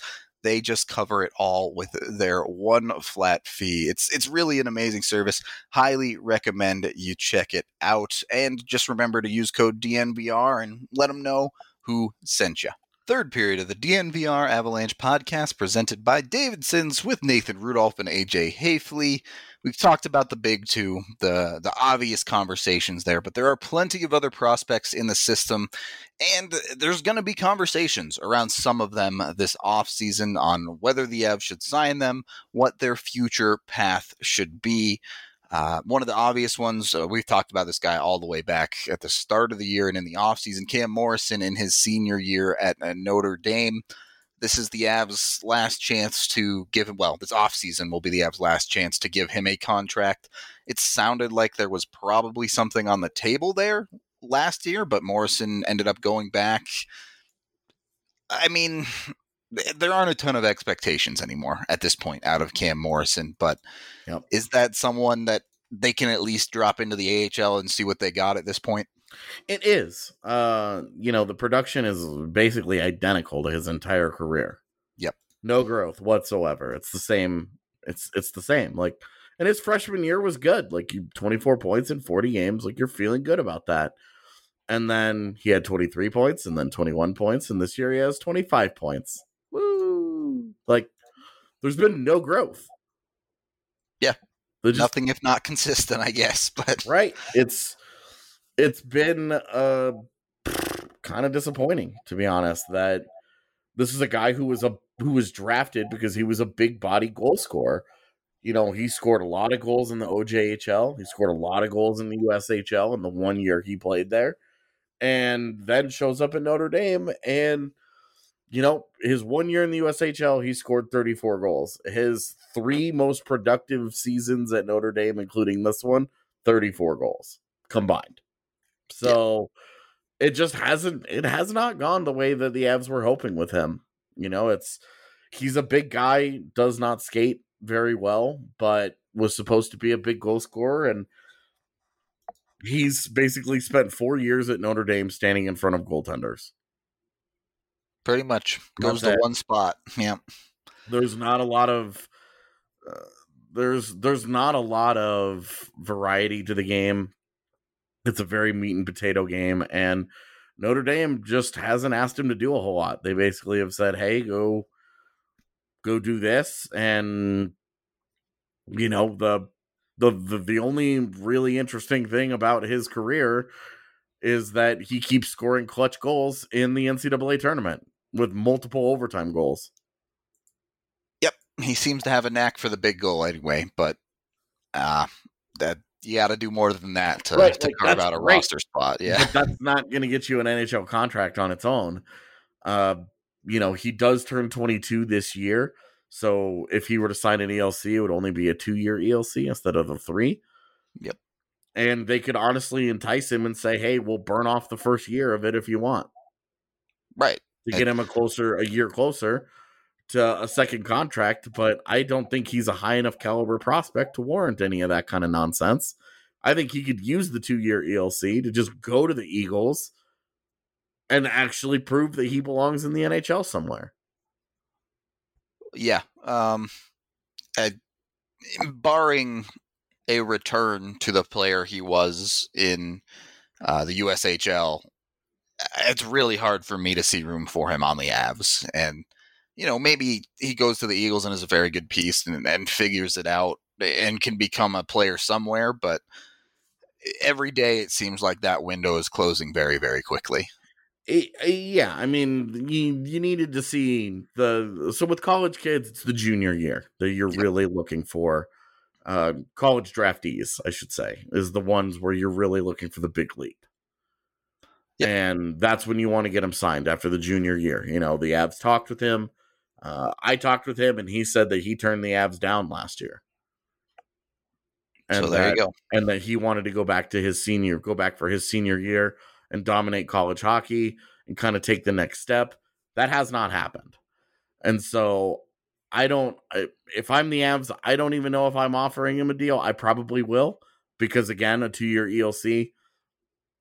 they just cover it all with their one flat fee. It's it's really an amazing service. Highly recommend you check it out. And just remember to use code D N V R and let them know who sent you. Third period of the D N V R Avalanche podcast presented by Davidson's with Nathan Rudolph and A J Hafley. We've talked about the big two, the, the obvious conversations there, but there are plenty of other prospects in the system, and there's going to be conversations around some of them this offseason on whether the Avs should sign them, what their future path should be. Uh, one of the obvious ones, uh, we've talked about this guy all the way back at the start of the year and in the offseason, Cam Morrison in his senior year at uh, Notre Dame. This is the Avs' last chance to give him, well, this offseason will be the Avs' last chance to give him a contract. It sounded like there was probably something on the table there last year, but Morrison ended up going back. I mean, there aren't a ton of expectations anymore at this point out of Cam Morrison, but yep. Is that someone that they can at least drop into the A H L and see what they got at this point? It is. Uh, you know, the production is basically identical to his entire career. Yep. No growth whatsoever. It's the same. It's it's the same. Like, and his freshman year was good. Like, you twenty-four points in forty games. Like, you're feeling good about that. And then he had twenty-three points and then twenty-one points. And this year he has twenty-five points. Woo! Like, there's been no growth. Yeah. Just, nothing if not consistent, I guess. But right. It's it's been uh kind of disappointing, to be honest, that this is a guy who was a who was drafted because he was a big body goal scorer. You know, he scored a lot of goals in the O J H L. He scored a lot of goals in the U S H L in the one year he played there. And then shows up in Notre Dame, and you know, his one year in the U S H L, he scored thirty-four goals. His three most productive seasons at Notre Dame, including this one, thirty-four goals combined. So yeah. it just hasn't, it has not gone the way that the Avs were hoping with him. You know, it's, he's a big guy, does not skate very well, but was supposed to be a big goal scorer. And he's basically spent four years at Notre Dame standing in front of goaltenders. Pretty much goes to one spot. Yeah. There's not a lot of, uh, there's, there's not a lot of variety to the game. It's a very meat and potato game, and Notre Dame just hasn't asked him to do a whole lot. They basically have said, hey, go, go do this. And, you know, the, the, the, the only really interesting thing about his career is that he keeps scoring clutch goals in the N C double A tournament with multiple overtime goals. Yep. He seems to have a knack for the big goal anyway, but uh, that, you got to do more than that to, right, to like, carve out a great. roster spot. Yeah. But that's not going to get you an N H L contract on its own. Uh, you know, he does turn twenty-two this year. So if he were to sign an E L C, it would only be a two-year E L C instead of a three. Yep. And they could honestly entice him and say, hey, we'll burn off the first year of it if you want. Right. To get him a closer, a year closer to a second contract. But I don't think he's a high enough caliber prospect to warrant any of that kind of nonsense. I think he could use the two-year E L C to just go to the Eagles and actually prove that he belongs in the N H L somewhere. Yeah. Um, uh, barring a return to the player he was in uh, the U S H L, it's really hard for me to see room for him on the Avs. And, you know, maybe he goes to the Eagles and is a very good piece and, and figures it out and can become a player somewhere. But every day it seems like that window is closing very, very quickly. It, yeah, I mean, you you needed to see the so with college kids, it's the junior year that you're yep. really looking for. Uh, college draftees, I should say, is the ones where you're really looking for the big leap. Yep. And that's when you want to get him signed after the junior year. You know, the Avs talked with him. Uh, I talked with him, and he said that he turned the Avs down last year. And so there that, you go. And that he wanted to go back to his senior, go back for his senior year and dominate college hockey and kind of take the next step. That has not happened. And so I don't, if I'm the Avs, I don't even know if I'm offering him a deal. I probably will, because again, a two-year E L C.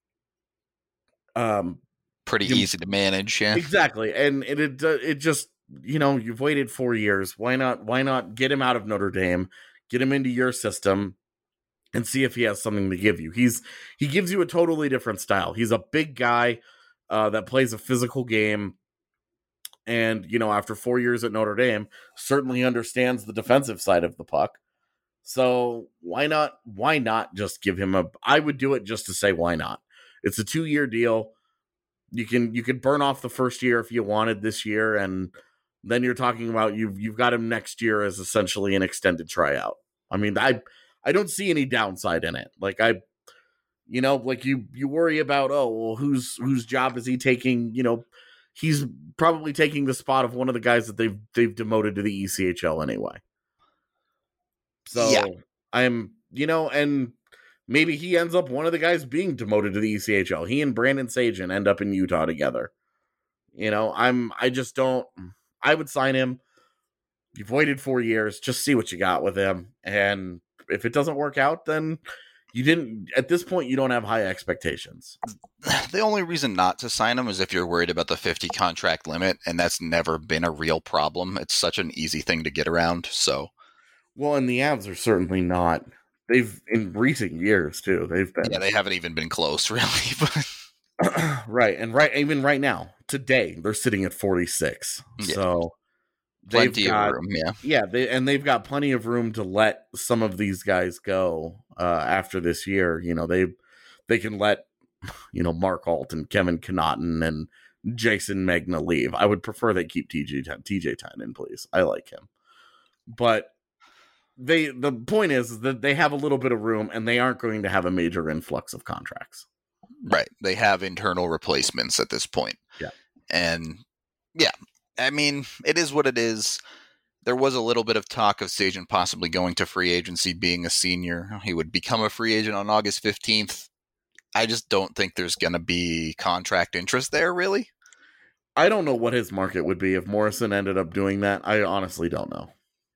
Um, Pretty you, easy to manage. Yeah, exactly. And it, it, it just, you know, you've waited four years. Why not? Why not get him out of Notre Dame, get him into your system, and see if he has something to give you. He's he gives you a totally different style. He's a big guy uh, that plays a physical game, and you know, after four years at Notre Dame, certainly understands the defensive side of the puck. So why not? Why not just give him a? I would do it just to say why not. It's a two-year deal. You can you can burn off the first year if you wanted this year, and then you're talking about you've you've got him next year as essentially an extended tryout. I mean, I I don't see any downside in it. Like I, you know, like you you worry about oh well, whose whose job is he taking? You know, he's probably taking the spot of one of the guys that they've they've demoted to the E C H L anyway. So yeah. I'm, you know, and maybe he ends up one of the guys being demoted to the E C H L. He and Brandon Sagen end up in Utah together. You know, I'm, I just don't, I would sign him. You've waited four years, just see what you got with him. And if it doesn't work out, then you didn't, at this point, you don't have high expectations. The only reason not to sign him is if you're worried about the fifty contract limit, and that's never been a real problem. It's such an easy thing to get around, so. Well, and the Avs are certainly not. They've, in recent years, too, they've been. Yeah, they haven't even been close, really. But right, and right, even right now, today, they're sitting at forty-six. Yeah. So plenty got, of room, yeah. Yeah, they, and they've got plenty of room to let some of these guys go uh, after this year. You know, they they can let, you know, Mark Alt and Kevin Connaughton and Jason Magna leave. I would prefer they keep T J T J Tynan, please. I like him. But They the point is that they have a little bit of room, and they aren't going to have a major influx of contracts. Right. They have internal replacements at this point. Yeah. And yeah, I mean, it is what it is. There was a little bit of talk of Sagen possibly going to free agency, being a senior. He would become a free agent on August fifteenth. I just don't think there's going to be contract interest there, really. I don't know what his market would be if Morrison ended up doing that. I honestly don't know.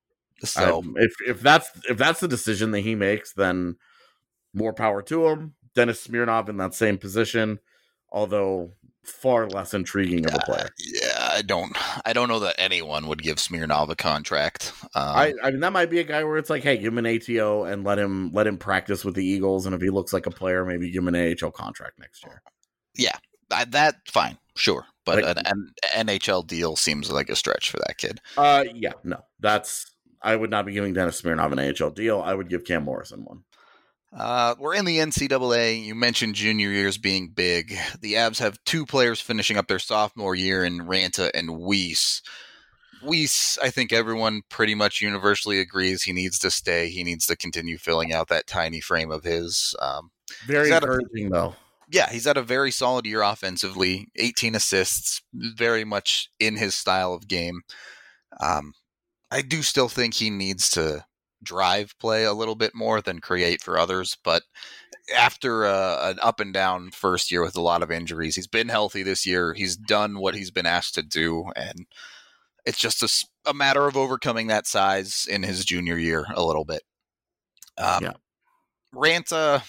So I, if if that's if that's the decision that he makes, then more power to him. Dennis Smirnov in that same position, although far less intriguing of a player. Uh, yeah, I don't I don't know that anyone would give Smirnov a contract. Um, I, I mean, that might be a guy where it's like, hey, give him an A T O and let him let him practice with the Eagles, and if he looks like a player, maybe give him an A H L contract next year. Yeah, I, that fine, sure, but like, an, an N H L deal seems like a stretch for that kid. Uh, yeah, no, that's. I would not be giving Dennis Smirnov an A H L deal. I would give Cam Morrison one. Uh, we're in the N C double A. You mentioned junior years being big. The Avs have two players finishing up their sophomore year in Ranta and Weiss. Weiss, I think everyone pretty much universally agrees he needs to stay. He needs to continue filling out that tiny frame of his. Um, very encouraging, a, though. Yeah, he's had a very solid year offensively. eighteen assists, very much in his style of game. Um, I do still think he needs to drive play a little bit more than create for others, but after uh, an up and down first year with a lot of injuries, he's been healthy this year. He's done what he's been asked to do, and it's just a, a matter of overcoming that size in his junior year a little bit. Um, yeah. Ranta,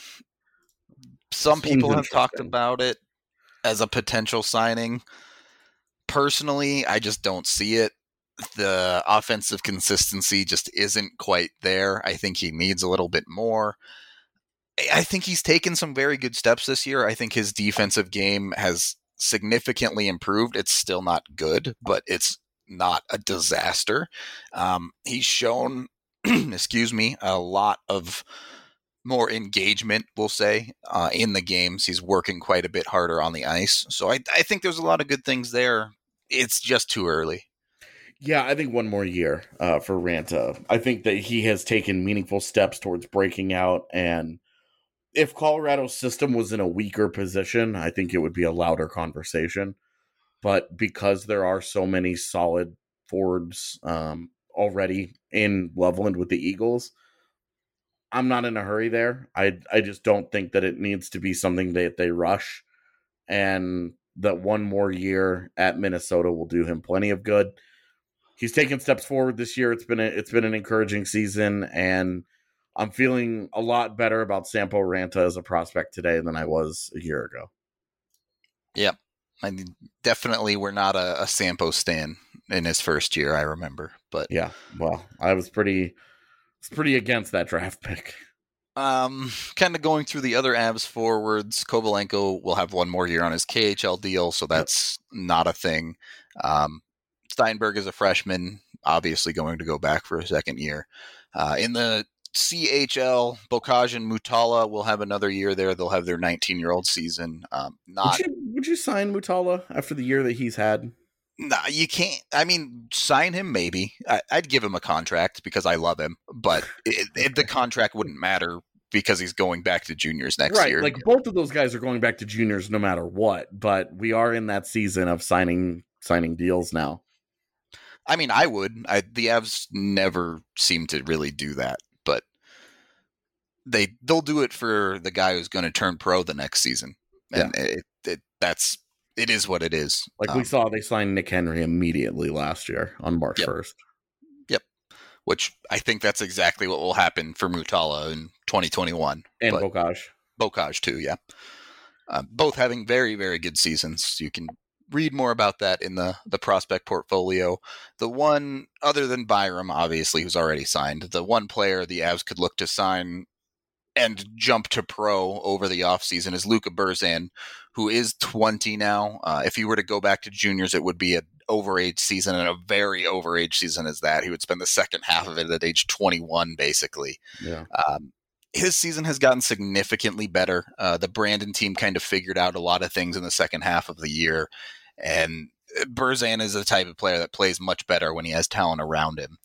some Seems people have talked about it as a potential signing. Personally, I just don't see it. The offensive consistency just isn't quite there. I think he needs a little bit more. I think he's taken some very good steps this year. I think his defensive game has significantly improved. It's still not good, but it's not a disaster. Um, he's shown, excuse me, a lot of more engagement, we'll say, uh, in the games. He's working quite a bit harder on the ice. So I, I think there's a lot of good things there. It's just too early. Yeah, I think one more year uh, for Ranta. I think that he has taken meaningful steps towards breaking out, and if Colorado's system was in a weaker position, I think it would be a louder conversation. But because there are so many solid forwards um, already in Loveland with the Eagles, I'm not in a hurry there. I I just don't think that it needs to be something that they rush, and that one more year at Minnesota will do him plenty of good. He's taken steps forward this year. It's been a, it's been an encouraging season, and I'm feeling a lot better about Sampo Ranta as a prospect today than I was a year ago. Yeah, I mean, definitely we're not a, a Sampo stan in his first year, I remember. But yeah, well, I was pretty, was pretty against that draft pick. Um, kind of going through the other Avs forwards, Kovalenko will have one more year on his K H L deal, so that's yep. not a thing. Um, Steinberg is a freshman, obviously going to go back for a second year. Uh, in the C H L, Bocage and Mutala will have another year there. They'll have their nineteen-year-old season. Um, not would you, would you sign Mutala after the year that he's had? No, nah, you can't. I mean, sign him maybe. I, I'd give him a contract because I love him, but it, it, the contract wouldn't matter because he's going back to juniors next right, year. Like both of those guys are going back to juniors no matter what, but we are in that season of signing signing deals now. I mean, I would. I, the Avs never seem to really do that, but they they'll do it for the guy who's going to turn pro the next season, and yeah. it, it that's it is what it is. Like um, we saw, they signed Nick Henry immediately last year on March first. Yep. Which I think that's exactly what will happen for Mutala in twenty twenty-one. And Bocage. Bocage too, yeah. Uh, both having very, very good seasons. You can read more about that in the, the prospect portfolio. The one, other than Byram, obviously, who's already signed, the one player the Avs could look to sign and jump to pro over the offseason is Luka Burzan, who is twenty now. Uh, if he were to go back to juniors, it would be an overage season, and a very overage season as that. He would spend the second half of it at age twenty-one, basically. Yeah. Um, his season has gotten significantly better. Uh, the Brandon team kind of figured out a lot of things in the second half of the year, and Burzan is the type of player that plays much better when he has talent around him.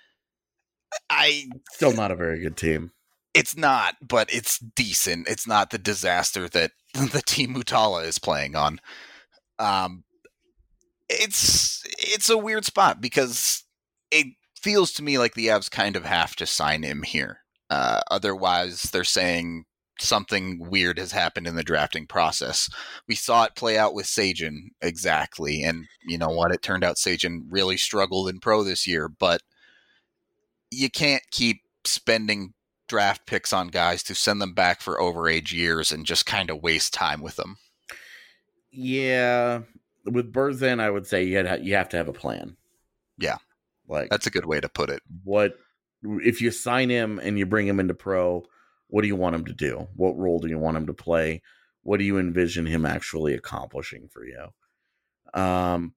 I Still not a very good team. It's not, but it's decent. It's not the disaster that the team Mutala is playing on. Um, it's it's a weird spot because it feels to me like the Avs kind of have to sign him here. Uh, otherwise, they're saying something weird has happened in the drafting process. We saw it play out with Sajin exactly, and you know what? It turned out Sajin really struggled in pro this year, but you can't keep spending draft picks on guys to send them back for overage years and just kind of waste time with them. Yeah, with Burzan, I would say you had, you have to have a plan. Yeah, like that's a good way to put it. What if you sign him and you bring him into pro? What do you want him to do? What role do you want him to play? What do you envision him actually accomplishing for you? Um,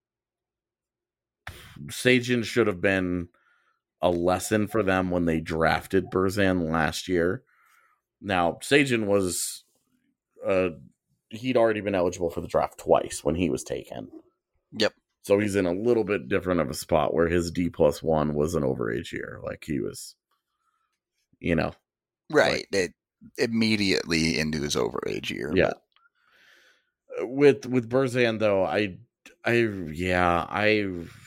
Sajin should have been a lesson for them when they drafted Burzan last year. Now, Sajin was, uh, he'd already been eligible for the draft twice when he was taken. Yep. So he's in a little bit different of a spot where his D plus one was an overage year. Like he was, you know. Right. Like, it immediately into his overage year. Yeah. But. With, with Burzan though, I, I, yeah, I,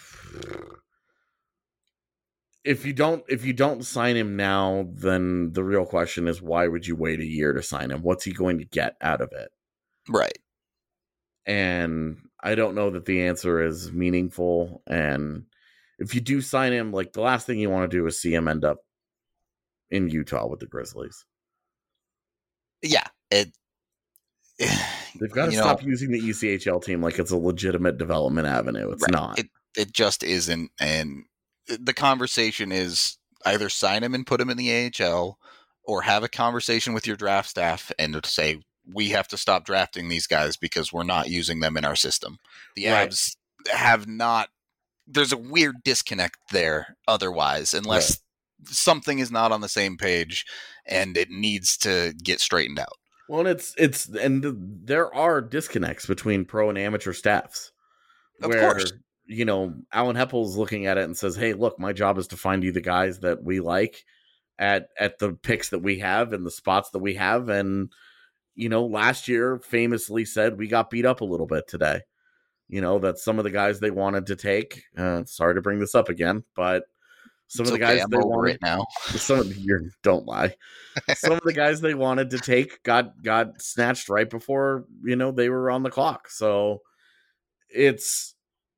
If you don't if you don't sign him now, then the real question is why would you wait a year to sign him? What's he going to get out of it? Right. And I don't know that the answer is meaningful. And if you do sign him, like the last thing you want to do is see him end up in Utah with the Grizzlies. Yeah. It They've got to stop know, using the E C H L team like it's a legitimate development avenue. It's right. not. It it just isn't. And the conversation is either sign him and put him in the A H L or have a conversation with your draft staff and say, we have to stop drafting these guys because we're not using them in our system. The right. Avs have not, there's a weird disconnect there otherwise, unless right. something is not on the same page and it needs to get straightened out. Well, and it's, it's, and there are disconnects between pro and amateur staffs. Of where, course. You know, Alan Heppel's looking at it and says, hey, look, my job is to find you the guys that we like at at the picks that we have and the spots that we have. And, you know, last year famously said we got beat up a little bit today. You know, that some of the guys they wanted to take, uh, sorry to bring this up again, but some it's of the okay, guys I'm they over wanted it now. Some of you don't lie. Some of the guys they wanted to take got got snatched right before, you know, they were on the clock. So it's,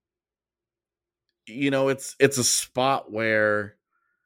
you know, it's it's a spot where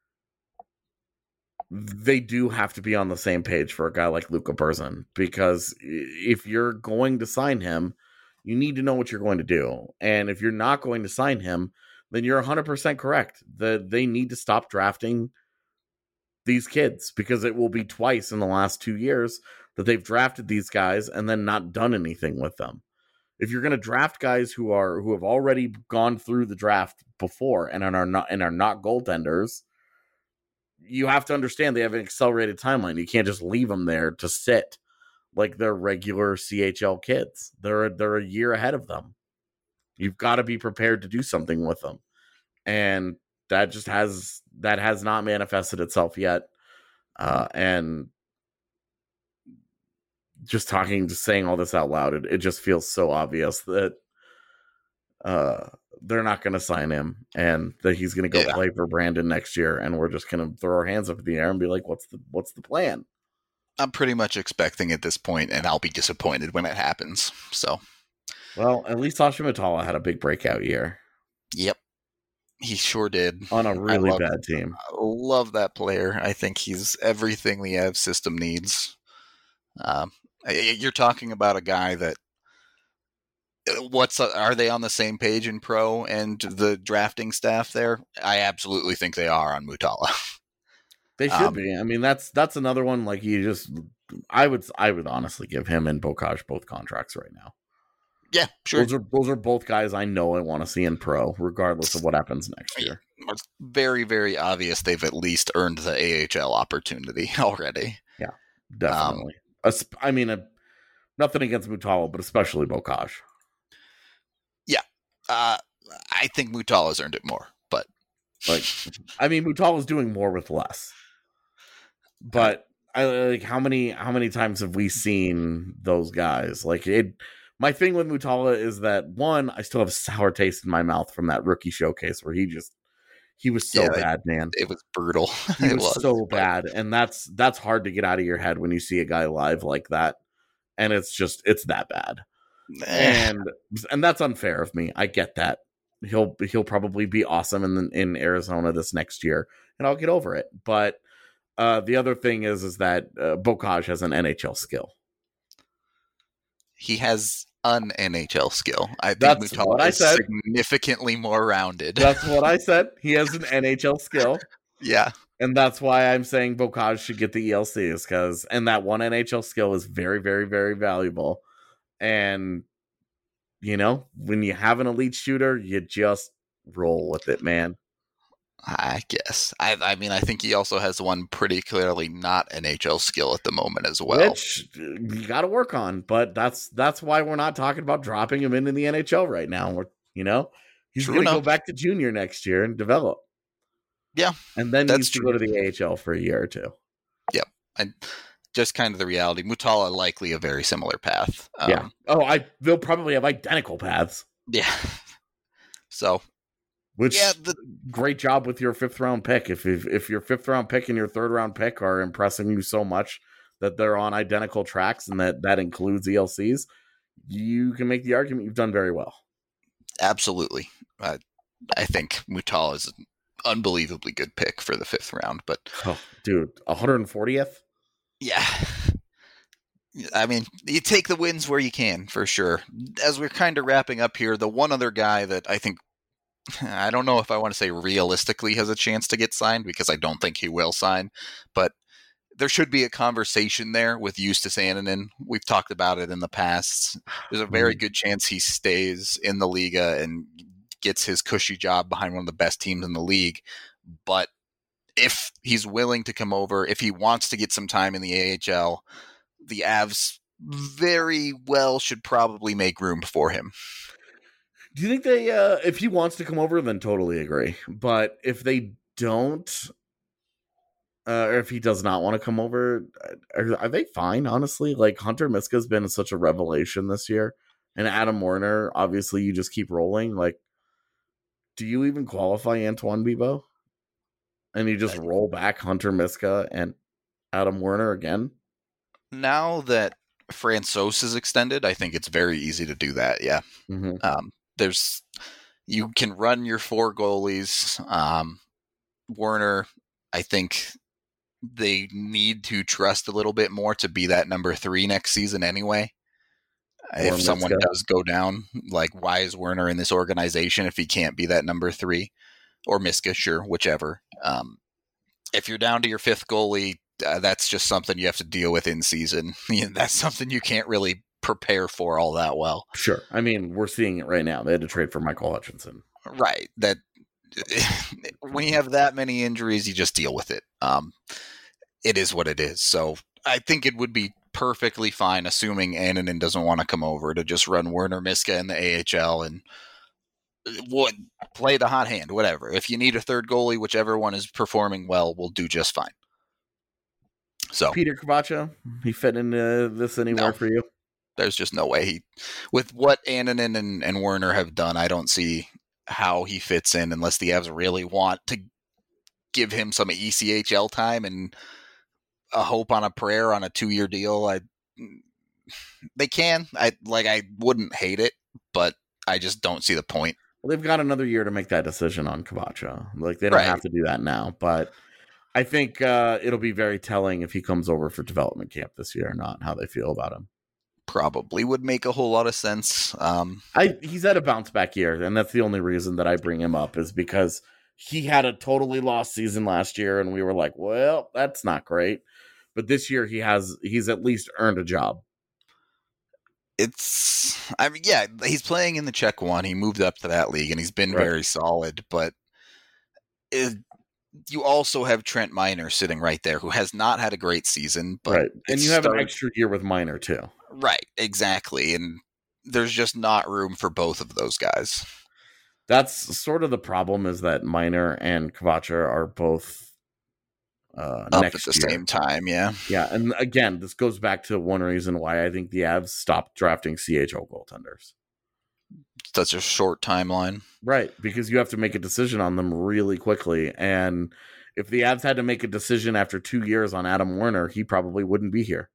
they do have to be on the same page for a guy like Luka Burzan, because if you're going to sign him, You need to know what you're going to do. And if you're not going to sign him, then you're one hundred percent correct. That they need to stop drafting these kids, because it will be twice in the last two years that they've drafted these guys and then not done anything with them. If you're going to draft guys who are who have already gone through the draft before and are not and are not goaltenders, you have to understand they have an accelerated timeline. You can't just leave them there to sit like they're regular C H L kids. They're they're a year ahead of them. You've got to be prepared to do something with them, and that just has that has not manifested itself yet. Uh, and just talking, just saying all this out loud, it, it just feels so obvious that uh, they're not going to sign him, and that he's going to go yeah. play for Brandon next year, and we're just going to throw our hands up in the air and be like, "What's the what's the plan?" I'm pretty much expecting at this point, and I'll be disappointed when it happens. So, well, at least Sasha Matala had a big breakout year. Yep, he sure did. On a really love, bad team. I love that player. I think he's everything the Avs system needs. Um, you're talking about a guy that. What's are they on the same page in pro and the drafting staff there? I absolutely think they are on Mutala. They should um, be. I mean, that's that's another one. Like you just, I would I would honestly give him and Bocage both contracts right now. Yeah, sure. Those are those are both guys I know I want to see in pro, regardless of what happens next year. It's very very obvious they've at least earned the A H L opportunity already. Yeah, definitely. Um, I mean, a, nothing against Mutala, but especially Bocage. Yeah, uh, I think Mutala's earned it more, but like, I mean, Mutala's doing more with less. But I like how many how many times have we seen those guys? Like it. My thing with Mutala is that one, I still have a sour taste in my mouth from that rookie showcase where he just he was so yeah, bad, man. It was brutal. He it was, was so but... bad, and that's that's hard to get out of your head when you see a guy live like that, and it's just it's that bad. and and that's unfair of me. I get that. He'll he'll probably be awesome in in Arizona this next year, and I'll get over it. But uh, the other thing is is that uh, Bocage has an N H L skill. He has an N H L skill. I think that's Mutala what I is said. Significantly more rounded. That's what I said. He has an N H L skill. Yeah. And that's why I'm saying Bocage should get the E L Cs, because and that one N H L skill is very, very, very valuable. And you know, when you have an elite shooter, you just roll with it, man. I guess. I I mean, I think he also has one pretty clearly not N H L skill at the moment as well. Which you got to work on, but that's that's why we're not talking about dropping him into the N H L right now. We're, you know, he's going to go back to junior next year and develop. Yeah. And then needs to go to the A H L for a year or two. Yep. And just kind of the reality. Mutala likely a very similar path. Um, yeah. Oh, I they'll probably have identical paths. Yeah. So Which yeah, the, great job with your fifth round pick. If, if if your fifth round pick and your third round pick are impressing you so much that they're on identical tracks, and that that includes E L Cs, you can make the argument you've done very well. Absolutely, uh, I think Mutala is an unbelievably good pick for the fifth round. But oh, dude, one hundred fortieth. Yeah. I mean, you take the wins where you can, for sure. As we're kind of wrapping up here, the one other guy that I think, I don't know if I want to say realistically has a chance to get signed, because I don't think he will sign, but there should be a conversation there with Justus Annunen. We've talked about it in the past. There's a very good chance he stays in the Liga and gets his cushy job behind one of the best teams in the league. But if he's willing to come over, if he wants to get some time in the A H L, the Avs very well should probably make room for him. Do you think they, uh, if he wants to come over, then totally agree. But if they don't, uh, or if he does not want to come over, are, are they fine, honestly? Like, Hunter Miska's been such a revelation this year. And Adam Werner, obviously, you just keep rolling. Like, do you even qualify Antoine Bibeau? And you just roll back Hunter Miska and Adam Werner again? Now that Francouz is extended, I think it's very easy to do that, yeah. Mm-hmm. Um, there's you can run your four goalies. Um, Werner, I think they need to trust a little bit more to be that number three next season anyway. If Or someone Miska. does go down, like, why is Werner in this organization if he can't be that number three? Or Miska, sure, whichever. Um, if you're down to your fifth goalie, uh, that's just something you have to deal with in season. That's something you can't really prepare for all that well. Sure. I mean, we're seeing it right now. They had to trade for Michael Hutchinson. Right. That when you have that many injuries, you just deal with it. Um, it is what it is. So I think it would be perfectly fine, assuming Annunen doesn't want to come over, to just run Werner Miska in the A H L and would play the hot hand, whatever. If you need a third goalie, whichever one is performing well will do just fine. So Peter Kvacha, he fit into this anywhere No. for you? There's just no way he, with what Annunen and, and Werner have done, I don't see how he fits in unless the Avs really want to give him some E C H L time and a hope on a prayer on a two-year deal. I, they can. I like. I wouldn't hate it, but I just don't see the point. Well, they've got another year to make that decision on Kvacha. Like, they don't Right. have to do that now, but I think uh, it'll be very telling if he comes over for development camp this year or not, how they feel about him. Probably would make a whole lot of sense. Um, I he's had a bounce back year, and that's the only reason that I bring him up, is because he had a totally lost season last year, and we were like, well, that's not great. But this year he has he's at least earned a job. it's, I mean, yeah, he's playing in the Czech one. He moved up to that league, and he's been Right. very solid. But it, you also have Trent Miner sitting right there, who has not had a great season. But Right. And it's you have started- an extra year with Minor too. Right, exactly. And there's just not room for both of those guys. That's sort of the problem, is that Minor and Kvacha are both uh, Up next at the year. same time, yeah. Yeah, and again, this goes back to one reason why I think the Avs stopped drafting C H L goaltenders. Such a short timeline. Right, because you have to make a decision on them really quickly. And if the Avs had to make a decision after two years on Adam Werner, he probably wouldn't be here.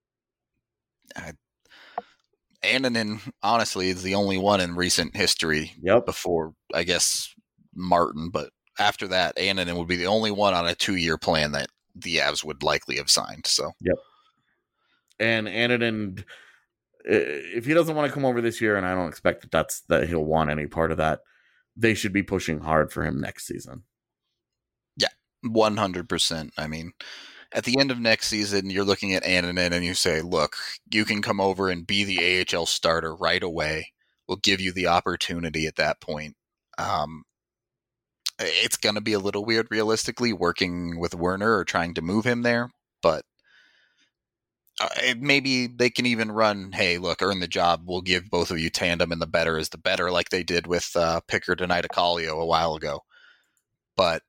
Annunen, honestly, is the only one in recent history Yep. before, I guess, Martin. But after that, Annunen would be the only one on a two-year plan that the Avs would likely have signed. So, And Annunen, if he doesn't want to come over this year, and I don't expect that that's that he'll want any part of that, they should be pushing hard for him next season. one hundred percent. I mean, at the end of next season, you're looking at Annunen and you say, look, you can come over and be the A H L starter right away. We'll give you the opportunity at that point. Um, it's going to be a little weird, realistically, working with Werner or trying to move him there, but uh, maybe they can even run, hey, look, earn the job. We'll give both of you tandem, and the better is the better, like they did with uh, Pickard and Itacalio a while ago. But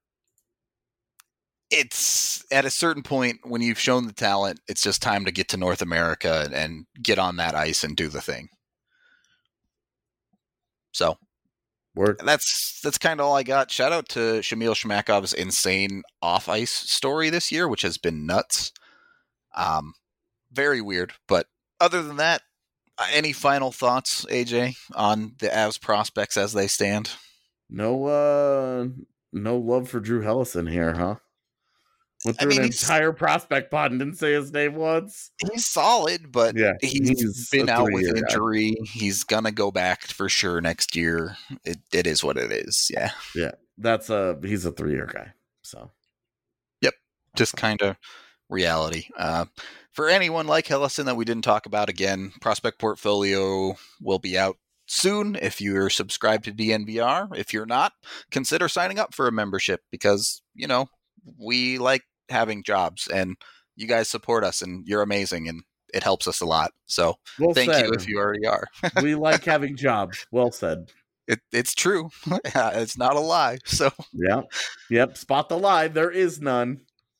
it's at a certain point when you've shown the talent, it's just time to get to North America and, and get on that ice and do the thing. So Work. that's that's kind of all I got. Shout out to Shamil Shmakov's insane off ice story this year, which has been nuts. Um, very weird, but other than that, uh, any final thoughts, A J, on the Avs prospects as they stand? No, uh, no love for Drew Hellison here, huh? Went I through mean, an he's- entire prospect pod and didn't say his name once. He's solid, but Yeah, he's he's been a out with three-year guy. injury. He's gonna go back for sure next year. It it is what it is. Yeah, That's a he's a three year guy. So just kind of reality. Uh, for anyone like Hellison that we didn't talk about, again, prospect portfolio will be out soon if you're subscribed to D N V R. If you're not, consider signing up for a membership, because you know we like having jobs and you guys support us and you're amazing and it helps us a lot. So well thank said. you if you already are. We like having jobs. Well said. It, it's true. It's not a lie. So, Yeah. Yep. Spot the lie. There is none.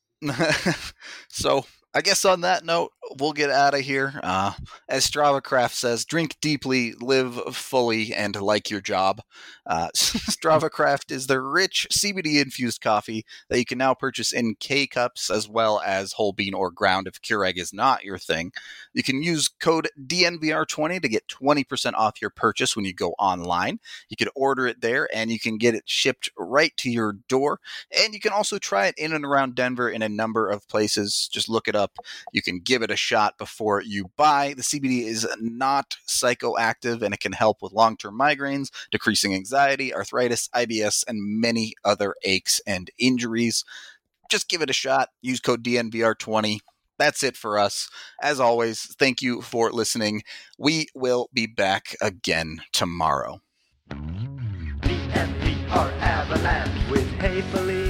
so I guess on that note, we'll get out of here. Uh, as StravaCraft says, drink deeply, live fully, and like your job. Uh, StravaCraft is the rich C B D-infused coffee that you can now purchase in K-Cups as well as whole bean or ground if Keurig is not your thing. You can use code D N V R twenty to get twenty percent off your purchase when you go online. You can order it there, and you can get it shipped right to your door. And you can also try it in and around Denver in a number of places. Just look it up. You can give it a a shot before you buy. The C B D is not psychoactive, and it can help with long-term migraines, decreasing anxiety, arthritis, I B S, and many other aches and injuries. Just give it a shot. Use code D N V R twenty. That's it for us. As always, thank you for listening. We will be back again tomorrow. D N V R Avalanche with Hey Felipe.